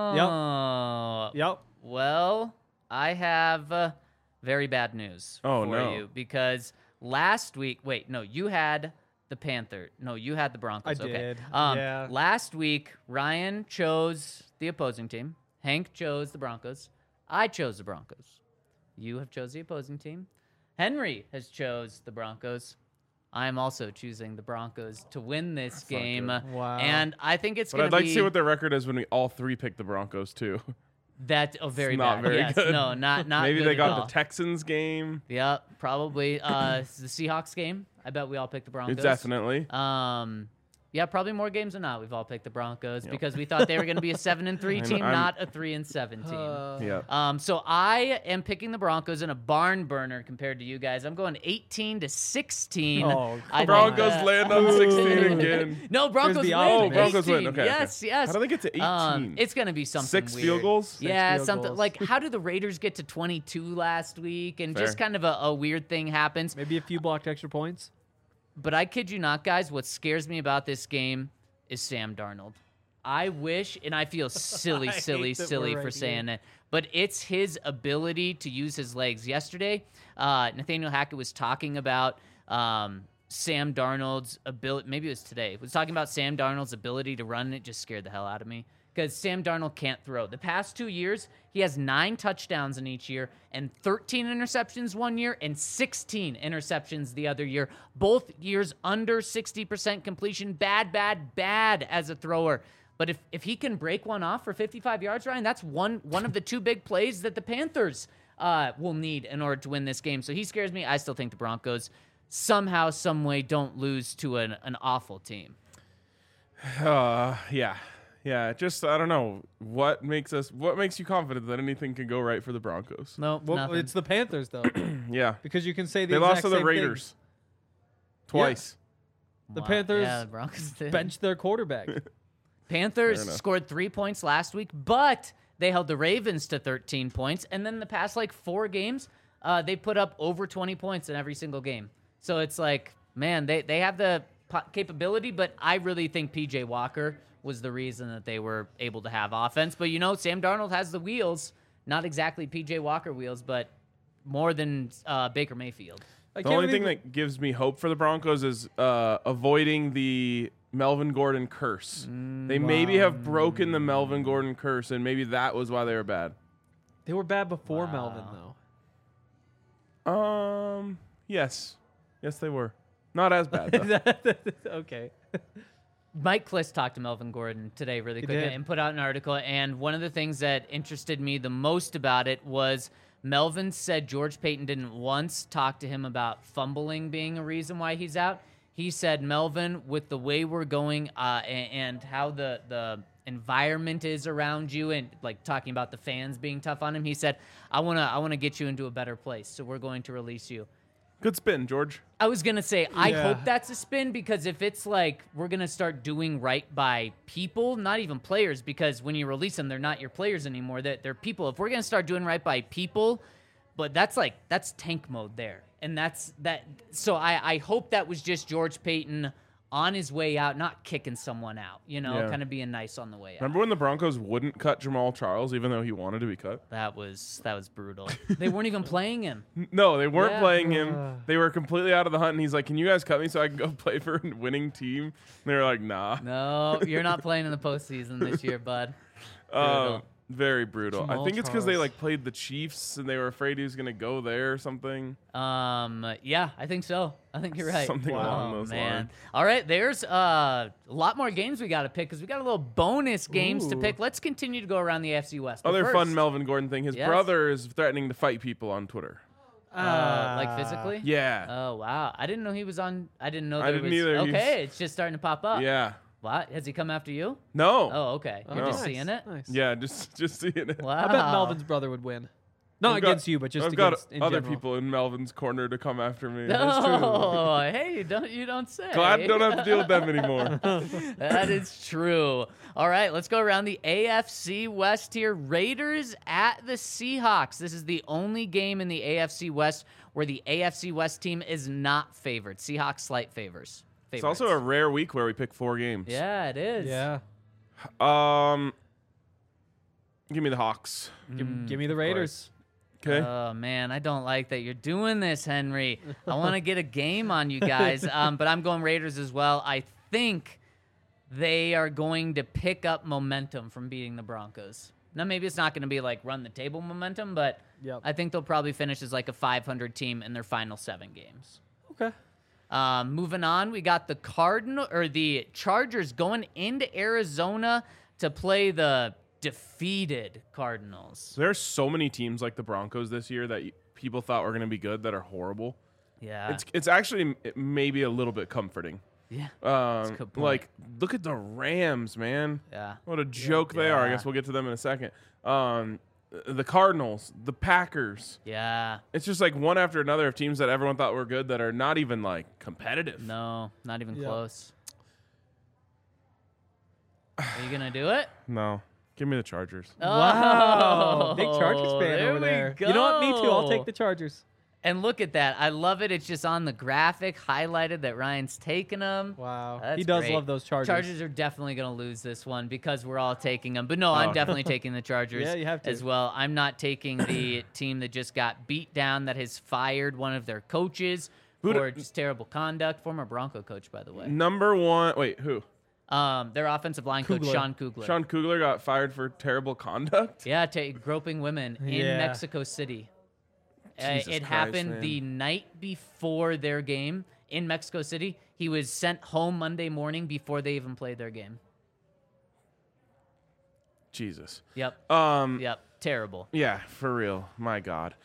Oh. Yep. Well, I have very bad news Oh, for no. you because last week, wait, no, you had the Panther. No, you had the Broncos. I Okay. did, yeah. Last week, Ryan chose the opposing team. Hank chose the Broncos. I chose the Broncos. You have chose the opposing team. Henry has chose the Broncos. I'm also choosing the Broncos to win this game. good. Wow. And I think it's But going I'd to like be to see what their record is when we all 3 pick the Broncos, too. that very not bad. very Yes, good. no, not Maybe good they at got all. the Texans game. Yeah, probably. It's the Seahawks game. I bet we all picked the Broncos. Definitely. Yeah, probably more games than not. We've all picked the Broncos because we thought they were going to be a 7-3 team, not a 3-7 team. Yeah. So I am picking the Broncos in a barn burner compared to you guys. I'm going 18-16. Oh, I think Broncos that- land on 16 again. No, Broncos the win. opposite. Oh, Broncos win. 18. Okay, Yes, okay. yes. How do they get to 18? It's going to be something 6 weird. field goals? Yeah, field something goals. like how did the Raiders get to 22 last week? And just Fair. kind of a weird thing happens. Maybe a few blocked extra points. But I kid you not, guys, what scares me about this game is Sam Darnold. I wish, and I feel silly, I hate silly, that silly we're for right saying here. it, but it's his ability to use his legs. Yesterday, Nathaniel Hackett was talking about Sam Darnold's ability. Maybe it was today. He was talking about Sam Darnold's ability to run, and it just scared the hell out of me. Because Sam Darnold can't throw. The past 2 years, he has 9 touchdowns in each year and 13 interceptions one year and 16 interceptions the other year. Both years under 60% completion. Bad as a thrower. But if he can break one off for 55 yards, Ryan, that's one of the 2 big plays that the Panthers will need in order to win this game. So he scares me. I still think the Broncos somehow, some way don't lose to an awful team. Yeah. Yeah, just I don't know what makes you confident that anything can go right for the Broncos. No, Well, nothing. it's the Panthers, though, Yeah, because you can say the they lost to exact the same Raiders twice. The Wow. Panthers Yeah, the Broncos did. thing. Bench their quarterback. Panthers Fair enough. scored 3 points last week, but they held the Ravens to 13 points. And then the past 4 games, they put up over 20 points in every single game. So it's like, man, they have the capability, but I really think P.J. Walker was the reason that they were able to have offense. But, Sam Darnold has the wheels, not exactly P.J. Walker wheels, but more than Baker Mayfield. The only thing that gives me hope for the Broncos is avoiding the Melvin Gordon curse. They maybe have broken the Melvin Gordon curse, and maybe that was why they were bad. They were bad before Melvin, though. Yes, they were not as bad. Though. Okay. Mike Kliss talked to Melvin Gordon today really quick did. and put out an article. And one of the things that interested me the most about it was Melvin said George Payton didn't once talk to him about fumbling being a reason why he's out. He said, Melvin, with the way we're going and how the environment is around you and talking about the fans being tough on him, he said, I wanna get you into a better place. So we're going to release you. Good spin, George. I was going to say, I Yeah. hope that's a spin because if it's we're going to start doing right by people, not even players, because when you release them, they're not your players anymore. They're people. If we're going to start doing right by people, but that's tank mode there. And that's that. So I hope that was just George Payton on his way out, not kicking someone out, Yeah. kind of being nice on the way out. Remember when the Broncos wouldn't cut Jamal Charles even though he wanted to be cut? That was brutal. They weren't even playing him. No, they weren't Yeah. playing him. They were completely out of the hunt, and he's like, "Can you guys cut me so I can go play for a winning team?" And they were like, "Nah." No, you're not playing in the postseason this year, bud. Brutal. Very brutal. I Jamal think it's because they Charles. played the Chiefs and they were afraid he was gonna go there or something. Yeah, I think so. I think you're right. Something along those lines. All right, there's a lot more games we got to pick because we got a little bonus games to Ooh. pick. Let's continue to go around the AFC West. But Other first, fun Melvin Gordon thing. His Yes. brother is threatening to fight people on Twitter. physically. Yeah. Oh wow, I didn't know he was on. I didn't know. I there didn't was, either. Okay, it's just starting to pop up. Yeah. What? Has he come after you? No. Oh, okay. You're just Nice, seeing it? Nice. Yeah, just seeing it. Wow. I bet Melvin's brother would win. Not I've got- against you, but just I've got against in other general. people in Melvin's corner to come after me. Oh, hey, you don't say. Glad I don't have to deal with them anymore. That is true. All right, let's go around the AFC West here. Raiders at the Seahawks. This is the only game in the AFC West where the AFC West team is not favored. Seahawks slight favors. It's also a rare week where we pick 4 games. Yeah, it is. Yeah. Give me the Hawks. Give me the Raiders. Okay. Oh man, I don't like that you're doing this, Henry. I want to get a game on you guys, but I'm going Raiders as well. I think they are going to pick up momentum from beating the Broncos. Now, maybe it's not going to be like run the table momentum, but Yep. I think they'll probably finish as like a 500 team in their final 7 games. Okay. Moving on, we got the Chargers going into Arizona to play the defeated Cardinals. There's so many teams like the Broncos this year that people thought were going to be good that are horrible. Yeah. It's actually maybe a little bit comforting. Yeah. a good point. Like, look at the Rams, man. Yeah. What a joke they are. I Yeah. guess we'll get to them in a second. The Cardinals, the Packers. Yeah. It's just like one after another of teams that everyone thought were good that are not even like competitive. No, not even Yeah. close. Are you going to do it? No. Give me the Chargers. Wow. Big Chargers fan there over we there. You know what? Me too. I'll go. take the Chargers. And look at that. I love it. It's just on the graphic highlighted that Ryan's taking them. Wow. That's He does great. love those Chargers. Chargers are definitely going to lose this one because we're all taking them. But no, I'm Oh. definitely taking the Chargers Yeah, you have to. as well. I'm not taking the team that just got beat down, that has fired one of their coaches for just terrible conduct. Former Bronco coach, by the way. Number 1. Wait, who? Their offensive line coach, Kugler. Sean Kugler. Sean Kugler got fired for terrible conduct? Yeah, groping women in Yeah. Mexico City. Jesus It Christ, happened man. the night before their game in Mexico City. He was sent home Monday morning before they even played their game. Jesus. Yep. Yeah, Terrible. for real. My God.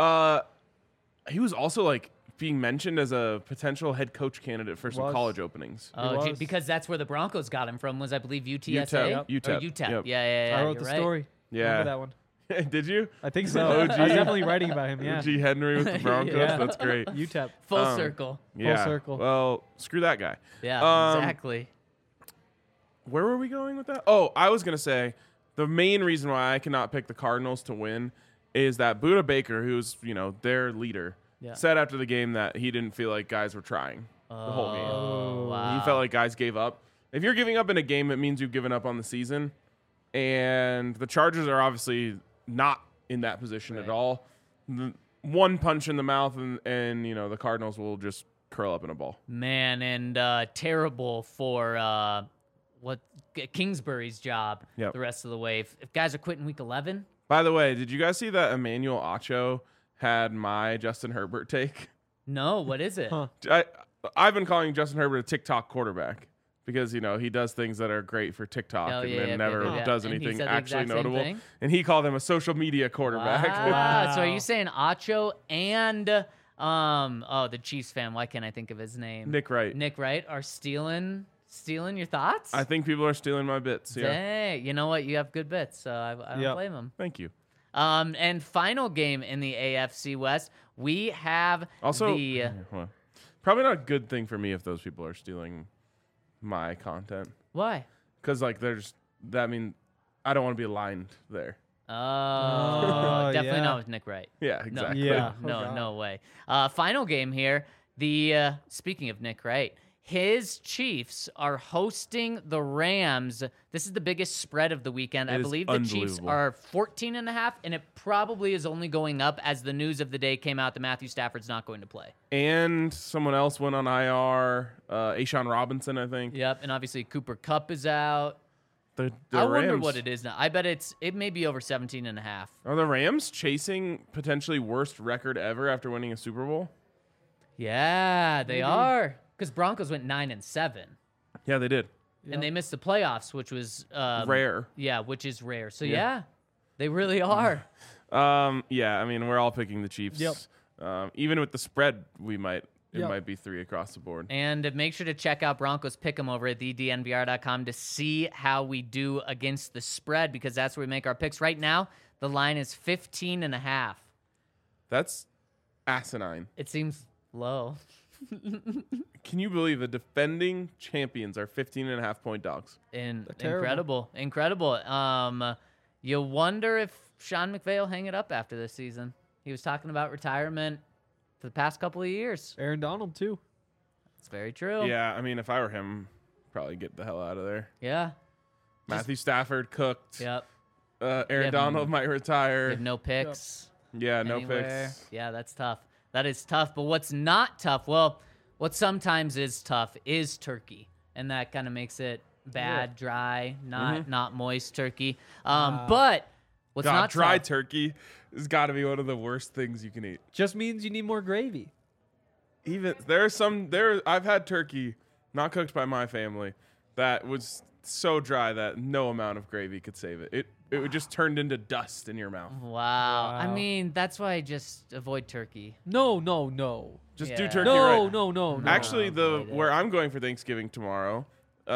He was also like being mentioned as a potential head coach candidate for some Was. college openings. Oh, was. because that's where the Broncos got him from. Was I believe UTSA? UTEP. Or UTEP. UTEP. Yep. Yeah. I wrote you're the right. story. Yeah. Remember that one? Did you? I think so. OG. I was definitely writing about him. Yeah. G. Henry with the Broncos. Yeah. That's great. UTEP. Full circle. Yeah. circle. Well, screw that guy. Yeah, Um, exactly. Where were we going with that? Oh, I was going to say the main reason why I cannot pick the Cardinals to win is that Budda Baker, who's, their leader, Yeah. said after the game that he didn't feel like guys were trying the whole game. Oh, wow. He felt like guys gave up. If you're giving up in a game, it means you've given up on the season. And the Chargers are obviously not in that position at Right. all. One punch in the mouth and the Cardinals will just curl up in a ball. Man, and terrible for Kingsbury's job Yep. the rest of the way. If guys are quitting week 11, By the way, did you guys see that Emmanuel Acho had my Justin Herbert take? no, what is it? Huh. I've been calling Justin Herbert a TikTok quarterback because, he does things that are great for TikTok Oh, and yeah, then yeah, never yeah. does And he anything said the actually exact same notable. thing? And he called him a social media quarterback. Wow. So are Wow. you saying Acho and the Chiefs fan? Why can't I think of his name? Nick Wright. Nick Wright are stealing your thoughts? I think people are stealing my bits. Yeah. Dang. You know what? You have good bits, so I don't Yep. blame them. Thank you. And final game in the AFC West, we have Also, the well, probably not a good thing for me if those people are stealing my content. why? Because, that means I don't want to be aligned there. Oh, definitely yeah. not with Nick Wright. Yeah, exactly. Yeah. No, Oh, God. no way. Final game here. The speaking of Nick Wright, his Chiefs are hosting the Rams. This is the biggest spread of the weekend. I It is believe the Chiefs unbelievable. are 14.5, and it probably is only going up as the news of the day came out that Matthew Stafford's not going to play. And someone else went on IR, Ashawn Robinson, I think. Yep, and obviously Cooper Kupp is out. The I wonder Rams- what it is now. I bet it may be over 17.5. Are the Rams chasing potentially worst record ever after winning a Super Bowl? Yeah, they are. Because Broncos went 9-7. Yeah, they did. And they missed the playoffs, which was Rare. Yeah, which is rare. So Yeah. yeah, they really are. Yeah, I mean, we're all picking the Chiefs. Yep. Even with the spread, we might it Yep. might be 3 across the board. And make sure to check out Broncos Pick'em over at thednvr.com to see how we do against the spread, because that's where we make our picks. Right now, the line is 15.5. That's asinine. It seems low. Can you believe the defending champions are 15.5-point dogs? terrible. Incredible. You wonder if Sean McVay will hang it up after this season. He was talking about retirement for the past couple of years. Aaron Donald too. It's very true. Yeah, I mean, if I were him, probably get the hell out of there. Yeah. Matthew Stafford cooked. Yep. Aaron Yeah, Donald might You retire. have no picks. Yeah, no anywhere. picks. Yeah, that's tough. That is tough. But what's not tough? Well, what sometimes is tough is turkey, and that kind of makes it bad, dry, not moist turkey. But what's God, not dry tough? turkey has got to be one of the worst things you can eat. Just means you need more gravy. Even I've had turkey not cooked by my family that was so dry that no amount of gravy could save it. It would just turned into dust in your mouth. Wow. I Wow. mean, that's why I just avoid turkey. No. Just Yeah. do turkey No, right. no. Actually, avoid it. where I'm going for Thanksgiving tomorrow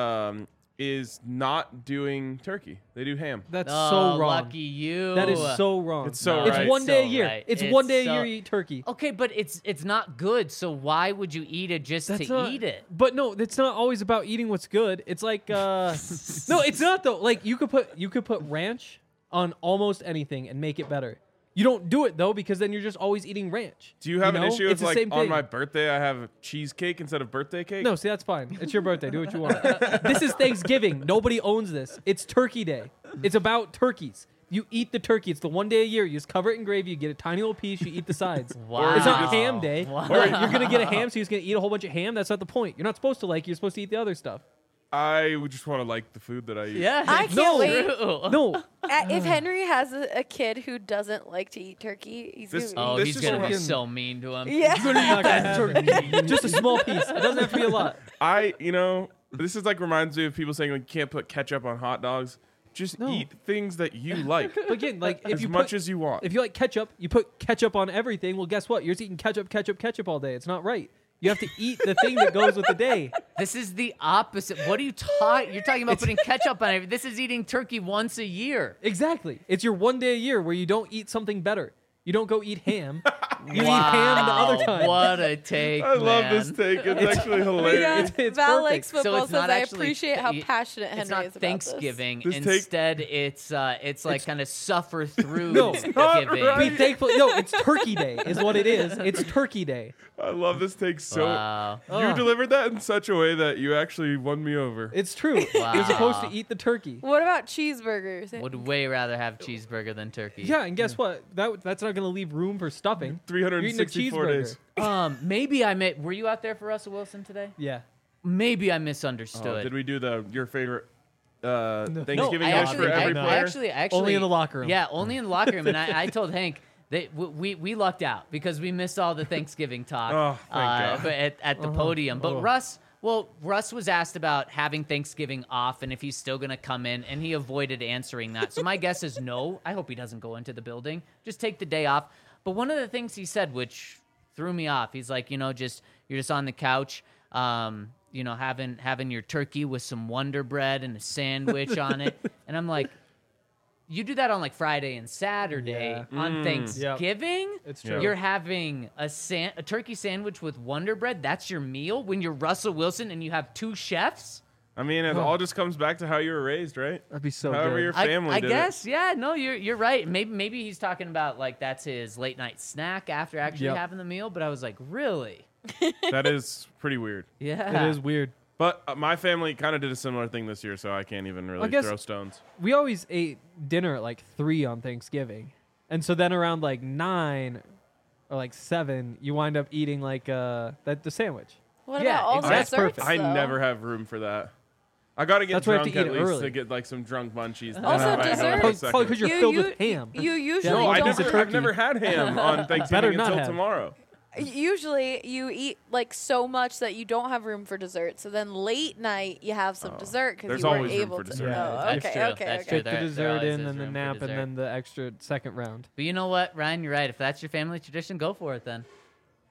is not doing turkey. They do ham. That's Oh, so wrong. lucky you. That is so wrong. It's so It's right. one day a So year. right. It's It's one day so- a year you eat turkey. Okay, but it's not good. So why would you eat it just That's to not, eat it? But no, it's not always about eating what's good. It's like no, it's not though. Like you could put ranch on almost anything and make it better. You don't do it though because then you're just always eating ranch. Do you have an know? issue It's with the like same on thing. my birthday I have cheesecake instead of birthday cake? No, see that's fine. It's your birthday. Do what you want. This is Thanksgiving. Nobody owns this. It's Turkey Day. It's about turkeys. You eat the turkey. It's the one day a year. You just cover it in gravy. You get a tiny little piece. You eat the sides. Wow. It's not ham day. Wow. Or you're gonna get a ham, so you're just gonna eat a whole bunch of ham. That's not the point. You're not supposed to like. You're supposed to eat the other stuff. I would just want to like the food that I eat. Yeah, I it's can't wait. true. No, If Henry has a kid who doesn't like to eat turkey, he's This- gonna Oh, This he's is gonna be fucking- so mean to him. be, yeah. you're not gonna have turkey. Just a small piece. It doesn't have to be a lot. This is like reminds me of people saying like you can't put ketchup on hot dogs. Just No. eat things that you like But again, like if as you much put, as you want. if you like ketchup, you put ketchup on everything. Well, guess what? You're just eating ketchup all day. It's not right. You have to eat the thing that goes with the day. This is the opposite. What are you talking? You're talking about putting ketchup on everything. This is eating turkey once a year. Exactly. It's your one day a year where you don't eat something better. You don't go eat ham. You eat ham the other time. What a take! I love man. this take. It's actually hilarious. It's Val perfect. likes football, So it's says not I actually appreciate how it- passionate Henry It's not is about Thanksgiving. This take- Instead, it's like kind of suffer through No. giving. not right. Be thankful. No, it's Turkey Day, is what it is. It's Turkey Day. I love this take so. Wow. You Ugh. delivered that in such a way that you actually won me over. It's true. Wow. You're supposed to eat the turkey. this. What about cheeseburgers? Would way rather have cheeseburger than turkey. Yeah, and guess what? That's not going to leave room for stuffing. 364 You're eating a days. Maybe I may. Were you out there for Russell Wilson today? Yeah. Maybe I Oh, misunderstood. did we do your favorite Thanksgiving I dish for every player? actually, Only in the locker room. Yeah, only in the locker room. And I told Hank that we lucked out because we missed all the Thanksgiving talk Oh, thank God. at the podium. But Russ was asked about having Thanksgiving off and if he's still going to come in, and he avoided answering that. So my guess is no. I hope he doesn't go into the building. Just take the day off. But one of the things he said, which threw me off, he's like, you're just on the couch, having your turkey with some Wonder Bread and a sandwich on it. And I'm like, you do that on like Friday and Saturday. Yeah. On Thanksgiving? It's true. You're having a turkey sandwich with Wonder Bread? That's your meal when you're Russell Wilson and you have two chefs? I mean, it all just comes back to how you were raised, right? That'd be so However good. your family I did guess, yeah. No, you're right. Maybe he's talking about like that's his late night snack after actually Yep. having the meal. But I was like, really? it. That is pretty weird. Yeah. It is weird. But my family kind of did a similar thing this year, so I can't even really guess- throw stones. We always ate dinner at like 3 on Thanksgiving. And so then around like 9 or like 7, you wind up eating like the sandwich. What Yeah, about all the that's desserts? perfect. I though? never have room for that. I gotta get That's why I have drunk to eat at it least early. to get like some drunk munchies. then Also, I might go in a desserts- second. Probably because you're filled with ham. You usually No, Yeah, I don't. piece of I've turkey. never had ham on Better Thanksgiving not until have. tomorrow. Usually you eat like so much that you don't have room for dessert. So then late night you have some dessert because There's you weren't always room able for to. dessert. Yeah, Oh, that's okay, true. okay, That's okay. true. Get the There dessert always in, is then the room for nap, and dessert. then the extra second round. But you know what, Ryan? You're right. If that's your family tradition, go for it then.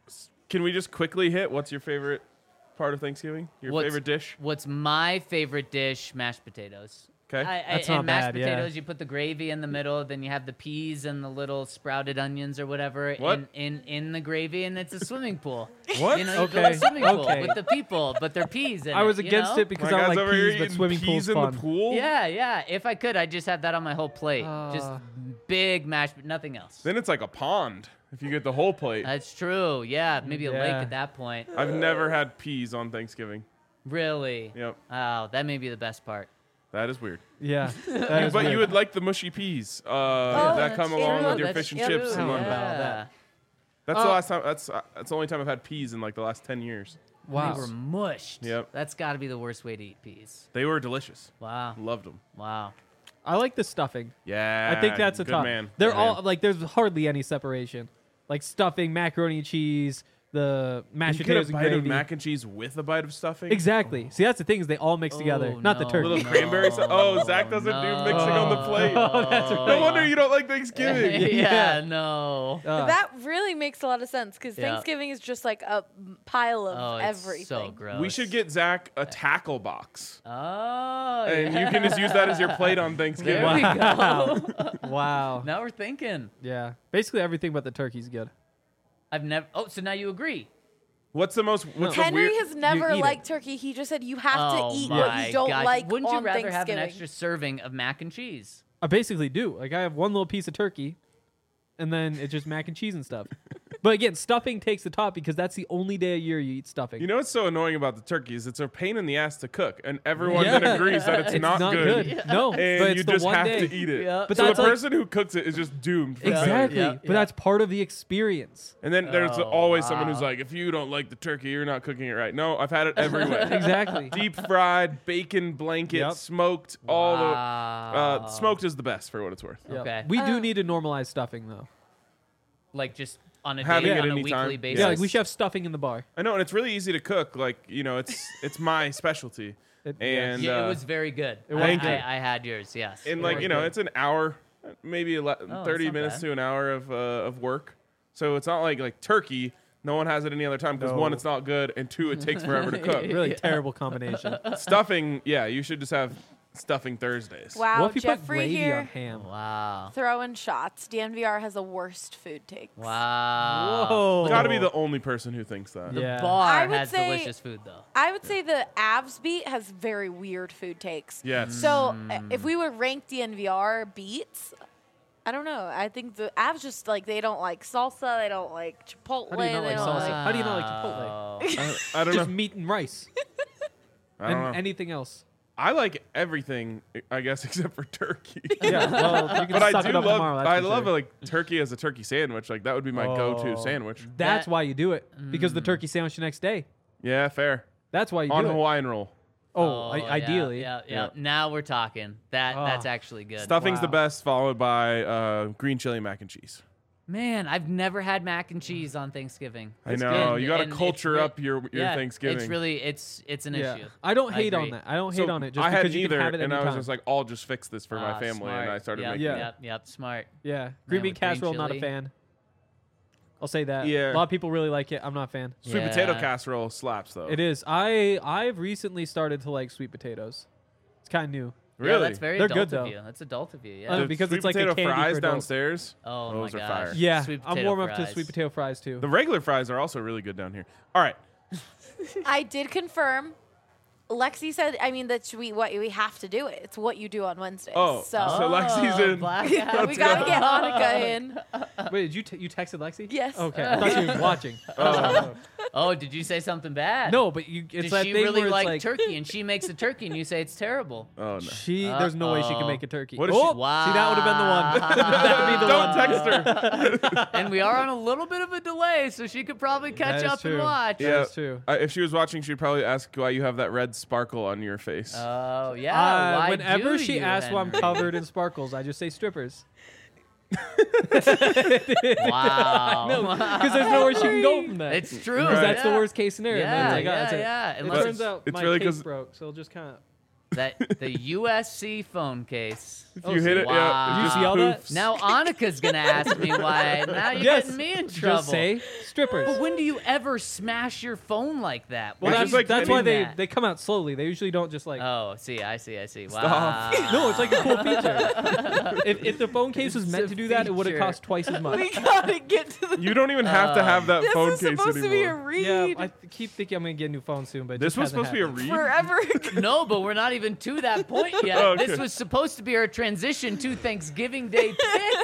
Can we just quickly hit what's your favorite part of Thanksgiving? Your favorite dish? What's my favorite dish? Mashed potatoes. Okay. That's and not mashed bad, yeah. potatoes, you put the gravy in the middle, then you have the peas and the little sprouted onions or whatever What? in the gravy, and it's a swimming pool. What? You know, you build Okay, a swimming pool okay. with the people, but they're peas in I was it, you against know? it because My I don't guy's like over here peas, but eating swimming peas pool's in fun. the pool? Yeah. If I could, I'd just have that on my whole plate. Just big mashed, nothing else. Then it's like a pond if you get the whole plate. That's true. Yeah, maybe a lake Yeah. at that point. I've never had peas on Thanksgiving. Really? Yep. Oh, that may be the best part. That is weird. Yeah. that is But you weird. would like the mushy peas that come that's along true. with your That's fish and true. chips. I don't And know about Yeah. that. that's the last time. That's the only time I've had peas in like the last 10 years. Wow. They were mushed. Yep. That's got to be the worst way to eat peas. They were delicious. Wow. Loved them. Wow. I like the stuffing. Yeah. I think that's a good top. man. They're Good all man. like there's hardly any separation. Like stuffing, macaroni and cheese, the mashed You get potatoes a and bite of gravy. mac and cheese with a bite of stuffing. Exactly. See, that's the thing is they all mix together. Oh, Not the no, turkey. Little cranberry sauce. Oh, Zach doesn't do mixing on the plate. Oh, that's right. No wonder you don't like Thanksgiving. yeah, no. That really makes a lot of sense because Yeah. Thanksgiving is just like a pile of Oh, it's everything. so gross. We should get Zach a tackle box, Oh, and yeah. you can just use that as your plate on Thanksgiving. There we go. Wow. Now we're thinking. Yeah. Basically everything but the turkey's good. I've never. Oh, so now you agree? What's the most? What's the Henry weird? has never eat it. liked turkey. He just said you have Oh to eat my what you don't God. like Wouldn't you on rather have an Thanksgiving. extra serving of mac and cheese? I basically do. Like I have one little piece of turkey, and then it's just mac and cheese and stuff. But again, stuffing takes the top because that's the only day a year you eat stuffing. You know what's so annoying about the turkey is it's a pain in the ass to cook, and everyone Yeah. then agrees that it's, not good. No, but And it's you the just one have day. to eat it. Yeah. But so the that's like- person who cooks it is just doomed. For failure. Exactly. Yeah, But yeah. that's part of the experience. And then there's Oh, always someone who's wow. like, if you don't like the turkey, you're not cooking it right. No, I've had it everywhere. Exactly. Deep fried, bacon blanket, Yep. smoked, all the Wow. smoked is the best for what it's worth. Yep. Okay. We do need to normalize stuffing though. Like just on a Having day, it on a anytime. weekly Yeah. basis. Yeah, like we should have stuffing in the bar. I know, and it's really easy to cook. Like it's my specialty. And Yeah, it was very good. was Thank good. you. I had yours. Yes. and It like was you know, good. it's an hour, maybe 30 not minutes bad. to an hour of work. So it's not like turkey. No one has it any other time because No. one, it's not good, and two, it takes forever to cook. Really terrible combination. Stuffing, yeah, you should just have stuffing Thursdays. Wow, What if you put Jeffrey gravy here on ham? Wow. throwing shots. DNVR has the worst food takes. Wow. Whoa. Got to be the only person who thinks that. The Yeah. I bar would has say- delicious food though. I would say the Avs beat has very weird food takes. Yes. So if we would rank DNVR beats, I don't know. I think the Avs just like they don't like salsa, they don't like chipotle. How do you not they like don't salsa? How do you not like Chipotle? Wow. I don't Just know. meat and rice I don't and know. anything else. I like everything, I guess, except for turkey. Yeah, well, you can But I suck do it up love. tomorrow. That's I for love sure. like turkey as a turkey sandwich. Like that would be my go-to Oh. sandwich. That's That- why you do it because the turkey sandwich the next day. Yeah, fair. That's why you On do it. Hawaiian roll. Oh, yeah, ideally. Yeah, Yeah. Now we're talking. That's Oh. actually good. Stuffing's the Wow. best, followed by green chili mac and cheese. Man, I've never had mac and cheese on Thanksgiving. I It's know. good. You got to And it's culture re- up your yeah, Thanksgiving. It's really it's an Yeah. issue. I don't I hate on agree. that. I don't So hate on it just I because hadn't you either, can have it and I was anytime. just like, I'll just fix this for my Ah, family, and smart. I started Yep, making Yeah. it. Yep, smart. Yeah, green bean with green casserole, not a chili. fan. I'll say that. Yeah. A lot of people really like it. I'm not a fan. Sweet potato Yeah. casserole slaps though. It is. I've recently started to like sweet potatoes. It's kind of new. Really? Yeah, that's very They're adult good, of though. you. That's adult of you. Oh, Yeah. The because sweet it's like a potato candy fries for adults. downstairs. Oh those my are gosh. fire. Yeah, Sweet I'm potato warm up to fries. sweet potato fries too. The regular fries are also really good down here. All right. I did confirm. Lexi said, I mean, that we have to do it. It's what you do on Wednesdays. Oh, so so Lexi's in. Blackout. we got to get Hanukkah in. Wait, did you texted Lexi? Yes. Okay, I thought she was watching. Oh, did you say something bad? No, but you. It's Does that she thing really where it's like, like turkey and she makes a turkey and you say it's terrible? Oh no. She. There's no way she can Uh-oh. make a turkey. What if she- oh, Wow. see, that would have been the one. that would be the Don't one. text her. And we are on a little bit of a delay, so she could probably catch That is up and true. watch. Yeah. That's true. If she was watching, she'd probably ask why you have that red sparkle on your face. Oh, yeah. Why Whenever do she you, asks why I'm Henry? covered in sparkles, I just say strippers. Wow. No, because there's nowhere she can go from that. It's true. Because that's the yeah. worst case scenario. Yeah, And then it's like, oh, yeah, that's it. yeah. It Unless turns out it's my really case 'cause- broke, so it'll just kind of. that the USC phone case. If you hit it, wow. yeah, Did you it see all that? just poofs. Now Annika's gonna ask me why. Now you're Yes. getting me in trouble. Just say strippers. But when do you ever smash your phone like that? Well, Why It's do just you like that's why do that? they come out slowly. They usually don't just like. Oh, see, I see. Wow. Stop. No, it's like a cool feature. if the phone case was It's meant a to do that, it would have feature. cost twice as much. We gotta get to the. You don't even have to have that This phone is case supposed to be a anymore. read Yeah, I keep thinking I'm gonna get a new phone soon, but it This just was hasn't supposed to be a happened. read. forever. No, but we're not even to that point yet. Okay. This was supposed to be our transition to Thanksgiving Day picks,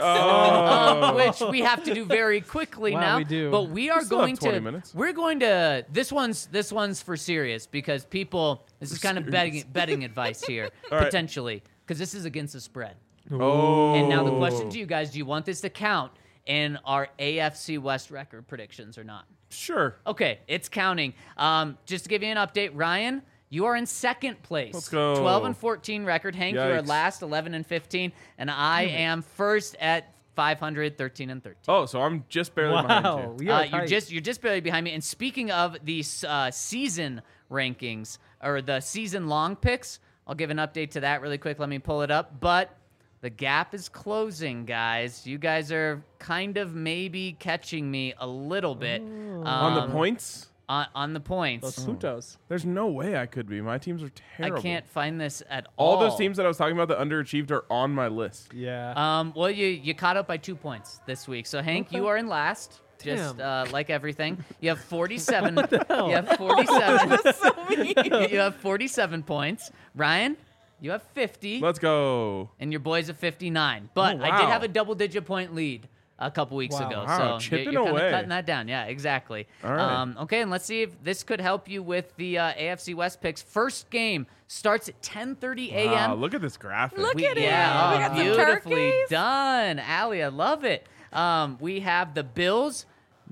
Oh. which we have to do very quickly Wow, now. we do. But we are still have going 20 to. minutes. We're going to. This one's for serious because people. This is kind of betting advice here All right. potentially because this is against the spread. Oh. And now the question to you guys: do you want this to count in our AFC West record predictions or not? Sure. Okay, it's counting. Just to give you an update, Ryan, you are in second place. Let's go. 12-14 record. Hank, you are Yikes. last, 11-15, and I am first at 500, 13-13. Oh, so I'm just barely behind Wow, you. we are You're tight. just barely behind me. And speaking of these season rankings or the season long picks, I'll give an update to that really quick. Let me pull it up. But the gap is closing, guys. You guys are kind of maybe catching me a little bit On the points? on the points. Los Putos. There's no way I could be. My teams are terrible. I can't find this at all. All those teams that I was talking about that underachieved are on my list. Yeah. Well, you caught up by 2 points this week. So Hank, you are in last. Just Damn. like everything, you have 47. hell? You have 47. So mean. You have 47 points. Ryan, you have 50, Let's go. and your boys have 59. But Oh, I did wow. have a double-digit point lead a couple weeks Wow. ago. Wow, So chipping you're kind away. of cutting that down. Yeah, exactly. All right. Okay, and let's see if this could help you with the AFC West picks. First game starts at 10:30 a.m. Wow, look at this graphic. Look at it. Yeah, We oh, got some beautifully turkeys. done, Allie. I love it. We have the Bills.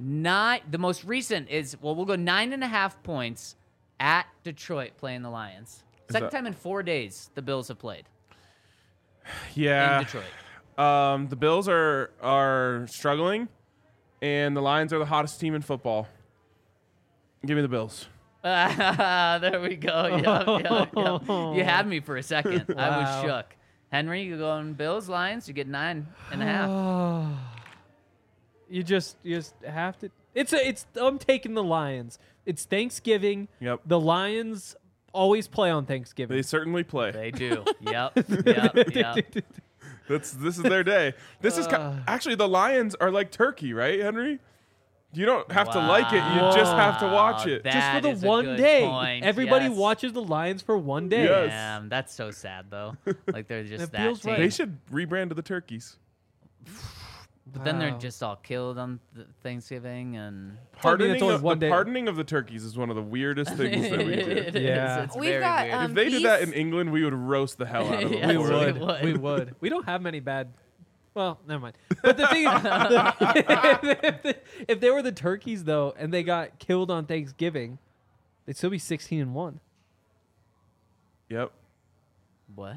The most recent is we'll go 9.5 points at Detroit playing the Lions. Second that- time in 4 days the Bills have played Yeah. in Detroit. The Bills are struggling, and the Lions are the hottest team in football. Give me the Bills. There we go. Yep. You had me for a second. I was Wow. shook. Henry, you going Bills, Lions? You get 9.5. You just have to. It's. I'm taking the Lions. It's Thanksgiving. Yep. The Lions always play on Thanksgiving. They certainly play. They do. Yep. This is their day. This is actually the Lions are like turkey, right, Henry? You don't have to like it. You just have to watch it. just for That the is a one good day. point. Everybody Yes. watches the Lions for one day. Yes. Damn, that's so sad though. Like they're just It that feels team. right. They should rebrand to the turkeys. But then they're Wow. just all killed on Thanksgiving and Pardoning only of, one the day. pardoning of the turkeys is one of the weirdest things that we do. It is. Yeah. It's We've very got, weird. If they did that in Beef. England, we would roast the hell out of them. Yes, We we for it. would. We would. We don't have many bad. Well, never mind. But the thing is, if they were the turkeys though, and they got killed on Thanksgiving, they'd still be 16-1. Yep. What?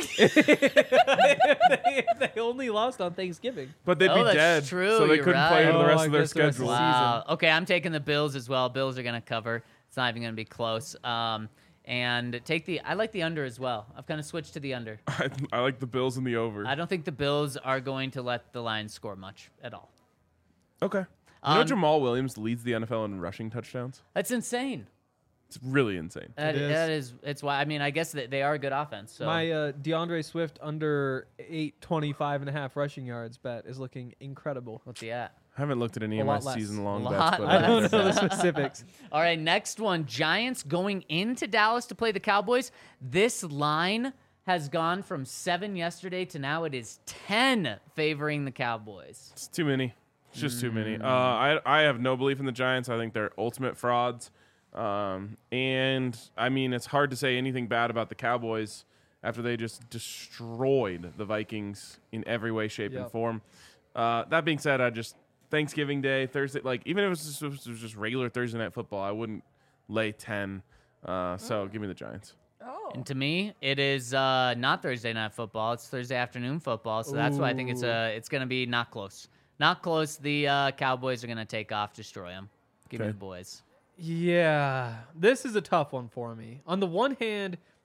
They only lost on Thanksgiving. But they'd Oh, be that's dead, true, so they you're couldn't play right. the Oh, rest I of their guess the rest of schedule. the Wow. Okay, I'm taking the Bills as well. Bills are gonna cover. It's not even gonna be close. And I like the under as well. I've kind of switched to the under. I like the Bills and the over. I don't think the Bills are going to let the Lions score much at all. Okay. You know Um, Jamal Williams leads the NFL in rushing touchdowns? That's insane. It's really insane. That is. is. It's why. I mean, I guess that they are a good offense. So My DeAndre Swift under 825.5 rushing yards bet is looking incredible. what's he at? I haven't looked at any A of my lot less. season-long A bets, lot but I don't less. know the specifics. All right, next one. Giants going into Dallas to play the Cowboys. This line has gone from 7 yesterday to now it is 10 favoring the Cowboys. It's too many. It's just too many. I have no belief in the Giants. I think they're ultimate frauds. And, I mean, it's hard to say anything bad about the Cowboys after they just destroyed the Vikings in every way, shape, and Yep. form. That being said, Thanksgiving Day, Thursday, like, even if it was just regular Thursday Night Football, I wouldn't lay 10. So give me the Giants. Oh. And to me, it is not Thursday night football. It's Thursday afternoon football. So that's why I think it's going to be not close. Not close. The Cowboys are going to take off, destroy them. Give me Okay. the boys. Yeah, this is a tough one for me. On the one hand,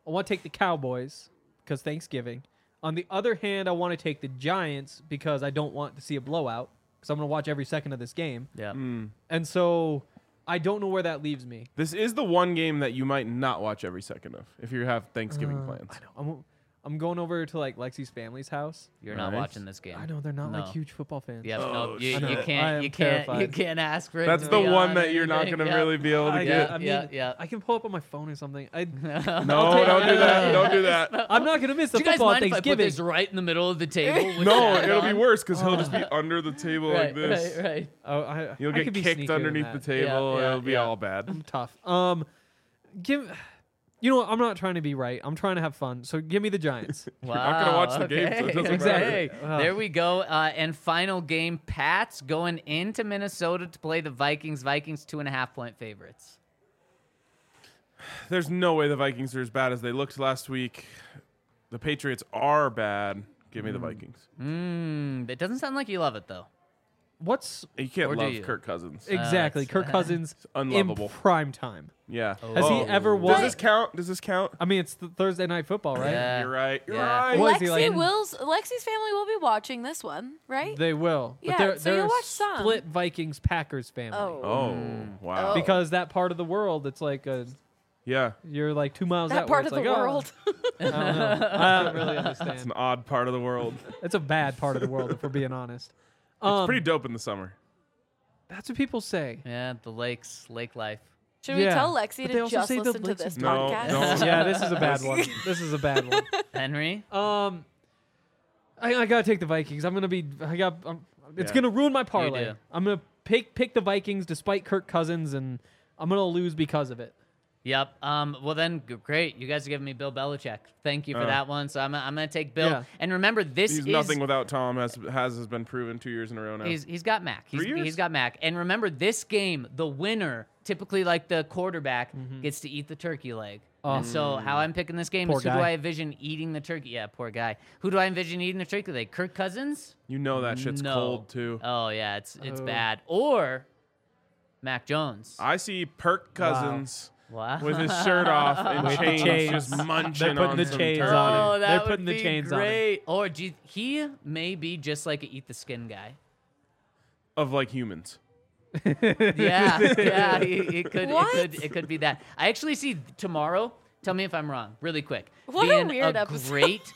I want to take the Cowboys because Thanksgiving. On the other hand, I want to take the Giants because I don't want to see a blowout because I'm going to watch every second of this game. Yeah. And so I don't know where that leaves me. This is the one game that you might not watch every second of if you have Thanksgiving plans. I know. I'm going over to like Lexi's family's house. You're not Nice. watching this game. I know they're not No. like huge football fans. Yep. Oh, No, you, shit. you I can't. am You can't. You terrified. can't ask for it. That's to the be one on that you're not anything. going to Yep. really be able to Yeah, get. I mean, yeah. I can pull up on my phone or something. No, don't do that. Don't do that. I'm not gonna miss the Do you guys football on mind if I put Thanksgiving. this right in the middle of the table? with No, that it'll on? be worse because he'll just be under the table Right, like this. right. Oh, You'll I get could be kicked sneakier than underneath the that. table. Yeah, It'll be yeah. all bad. Tough. You know what? I'm not trying to be right. I'm trying to have fun. So give me the Giants. Wow. not gonna watch the game, so it doesn't Exactly. Okay. There we go. And final game, Pats going into Minnesota to play the Vikings. Vikings 2.5-point favorites. There's no way the Vikings are as bad as they looked last week. The Patriots are bad. Give me the Vikings. It doesn't sound like you love it though. What's You can't Or do love you? Kirk Cousins. exactly it's- Kirk Cousins in unlovable. prime time? Yeah. Has he ever won? Does this count? Does this count? I mean, it's the Thursday night football, right? Yeah. You're right. You're Yeah. right. What is he like? Lexi's family will be watching this one, right? They will. Yeah, but they're, so they're you'll a watch some. split Vikings Packers family. Oh. Oh, wow. Oh. Because that part of the world, it's like Yeah. you're like 2 miles That out. part where of it's the like, world. I don't know. I don't really It's understand. an odd part of the world. It's a bad part of the world, if we're being honest. It's pretty dope in the summer. That's what people say. Yeah, the lake life. Should we Yeah. tell Lexi But they to also just say the listen to Lakes this is- No, podcast? don't. Yeah, this is a bad one. This is a bad one. Henry? I gotta take the Vikings. It's Yeah. gonna ruin my You parlay. do. I'm gonna pick the Vikings despite Kirk Cousins, and I'm gonna lose because of it. Yep. Well then, great. You guys are giving me Bill Belichick. Thank you for that one. So I'm gonna take Bill. Yeah. And remember, this He's is nothing without Tom, has been proven 2 years in a row now. He's got Mac. 3 years? He's got Mac. And remember, this game, the winner, typically like the quarterback, Mm-hmm. gets to eat the turkey leg. Oh. And so how I'm picking this game Poor is who do guy. I envision eating the turkey? Yeah, poor guy. Who do I envision eating the turkey leg? Kirk Cousins? You know that shit's No. cold, too. Oh yeah, it's Oh. bad. Or Mac Jones. I see Perk Cousins Wow. with his shirt off and With the chains, chains. just munching They're putting on the some chains turkey. on him. Oh, that They're would putting the be chains on him. great. Or he may be just like an eat the skin guy. Of like humans. Yeah, it could, What? it could be that. I actually see tomorrow. Tell me if I'm wrong, really quick. What a being weird episode. great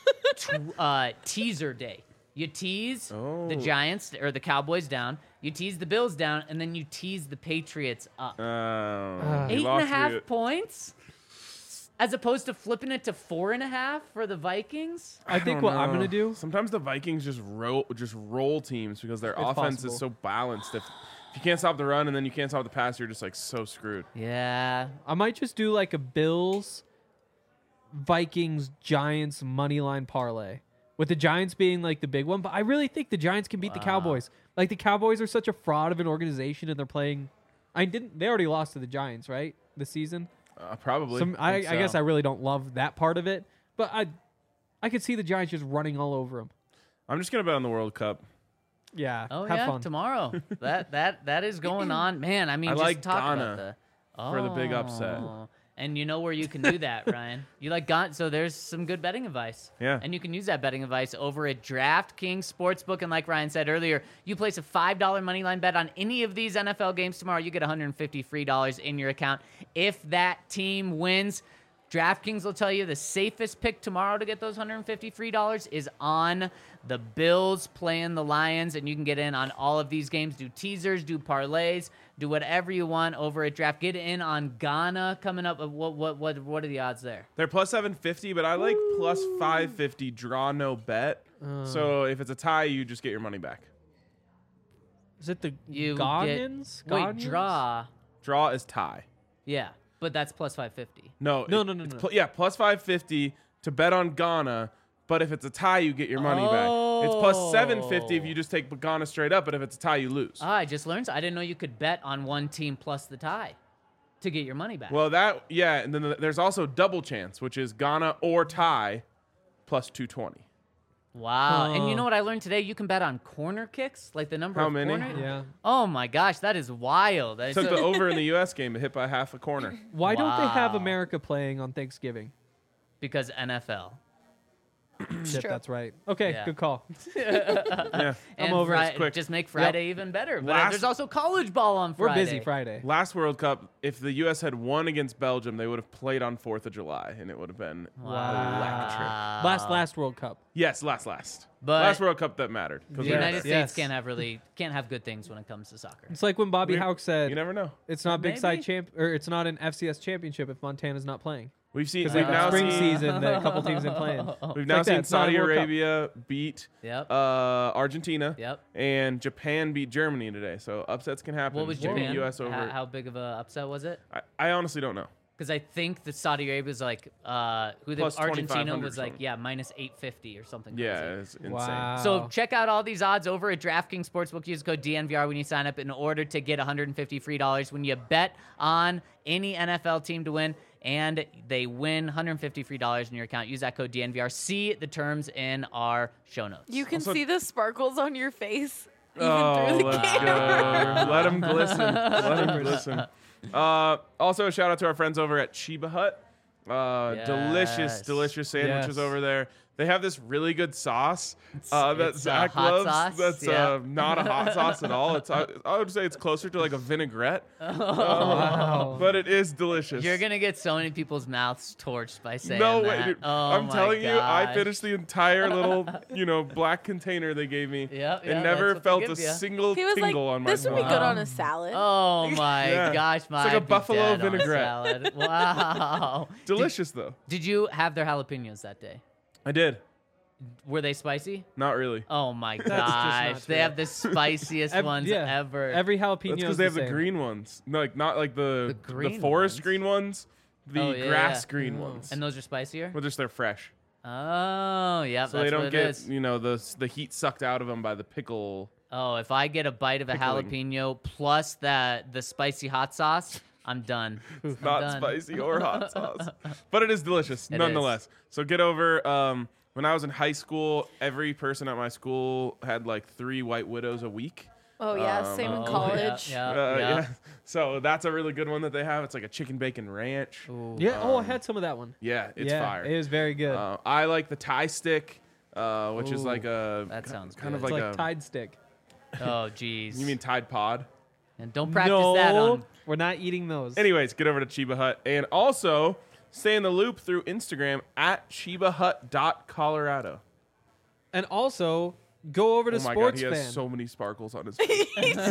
teaser day. You tease the Oh. Giants or the Cowboys down. You tease the Bills down, and then you tease the Patriots up. You 8.5 lost me. points, as opposed to flipping it to 4.5 for the Vikings. I think don't what I'm know. gonna do. Sometimes the Vikings just roll teams because their It's offense possible. is so balanced. If you can't stop the run and then you can't stop the pass, you're just like so screwed. Yeah, I might just do like a Bills, Vikings, Giants money line parlay, with the Giants being like the big one. But I really think the Giants can beat the Cowboys. Like the Cowboys are such a fraud of an organization, and they're playing. They already lost to the Giants, right? This season. Probably. I Think guess so. I really don't love that part of it, but I could see the Giants just running all over them. I'm just gonna bet on the World Cup. Yeah. Oh have yeah, fun. tomorrow. that is going on, man. I mean, I just like talk Ghana about the for the big upset. And you know where you can do that, Ryan. You like Ghana, so there's some good betting advice. Yeah. And you can use that betting advice over at DraftKings Sportsbook. And like Ryan said earlier, you place a $5 money line bet on any of these NFL games tomorrow, you get $150 free in your account. If that team wins, DraftKings will tell you the safest pick tomorrow to get those $150 free is on the Bills playing the Lions, and you can get in on all of these games. Do teasers, do parlays, do whatever you want over at Draft. Get in on Ghana coming up. What are the odds there? They're plus 750, but I like plus 550 draw no bet. So if it's a tie, you just get your money back. Is it the You Ghanaians? Wait, Ghanaians? draw. Draw is tie. Yeah, but that's plus 550. No, No, it's no. yeah, plus 550 to bet on Ghana. But if it's a tie, you get your money back. It's plus 750 if you just take Ghana straight up. But if it's a tie, you lose. I just learned. I didn't know you could bet on one team plus the tie to get your money back. Well, and then there's also double chance, which is Ghana or tie plus 220. Wow. And you Huh. know what I learned today? You can bet on corner kicks, like the number How of many? corner. Yeah. Oh my gosh, that is wild. Took the over in the U.S. game, hit by half a corner. Why don't they have Wow. America playing on Thanksgiving? because NFL. Shit, true. that's right. Okay, Yeah. good call. Yeah. And over it. Quick. Just make Friday even better. But Last- there's also college ball on We're Friday. busy Friday. Last World Cup, if the U.S. had won against Belgium, they would have played on 4th of July, and it would have been electric. Last World Cup. Yes, last. But- Last World Cup that mattered. 'cause The we were United there. States can't have good things when it comes to soccer. It's like when Bobby We- Houck said You never know. it's not Big Side Maybe. or it's not an FCS championship if Montana's not playing. We've seen. Because We've like now spring seen. season, the couple teams been playing. We've It's now like that. seen It's not a Saudi World Cup. Arabia beat Yep. Argentina. Yep. And Japan beat Germany today. So upsets can happen. What was Putting Japan? U.S. over. How big of a upset was it? I honestly don't know. Because I think that Saudi Arabia was like who the Plus Argentina 2,500 was or like something. minus 850 or something. Yeah, crazy. it's insane. Wow. So check out all these odds over at DraftKings Sportsbook. Use code DNVR when you sign up in order to get $150 free when you bet on any NFL team to win, and they win $150 free in your account. Use that code DNVR. See the terms in our show notes. You can Also- see the sparkles on your face even Oh, through the let's camera. go. Let them glisten. Let them glisten. Also, a shout out to our friends over at Chiba Hut. Yes. Delicious sandwiches Yes. over there. They have this really good sauce that it's a Zach hot loves. sauce, That's yeah. not a hot sauce at all. It's I would say it's closer to like a vinaigrette, Wow. but it is delicious. You're gonna get so many people's mouths torched by saying no that. way, dude. Oh I'm my telling you, I gosh. finished the entire little, black container they gave me, Yep, and yeah, never that's what they felt a give ya. single He was like, tingle on my this would be tongue. good on a salad. Oh my Yeah. gosh, my like a buffalo vinaigrette. Salad. Wow. Delicious though. Did you have their jalapenos that day? I did. Were they spicy? Not really. Oh my just not gosh, true. they have the spiciest ones ever. Every jalapeno. That's because they have the green ones. No, like not like the green forest ones? green ones, the Oh, yeah, grass yeah. green ones. And those are spicier? But just they're fresh, Oh, yeah, so that's they don't what it get is. the heat sucked out of them by the pickle. Oh, if I get a bite of a Pickling. jalapeno plus the spicy hot sauce, I'm done. I'm Not done. spicy or hot sauce, but it is delicious It nonetheless. So get over. When I was in high school, every person at my school had like 3 White Widows a week. Oh yeah, same in Oh, college. Yeah. So that's a really good one that they have. It's like a chicken bacon ranch. Ooh. Yeah. Oh, I had some of that one. Yeah, it's yeah, fire. It was very good. I like the Thai stick, which is like a that sounds kind of good. it's like like a. Tide Stick. Oh, jeez. You mean Tide Pod? And don't practice no, that on. we're not eating those. Anyways, get over to Chiba Hut and also stay in the loop through Instagram at ChibaHut.Colorado. And also go over to Oh my Sports god, he Fan. has so many sparkles on his face.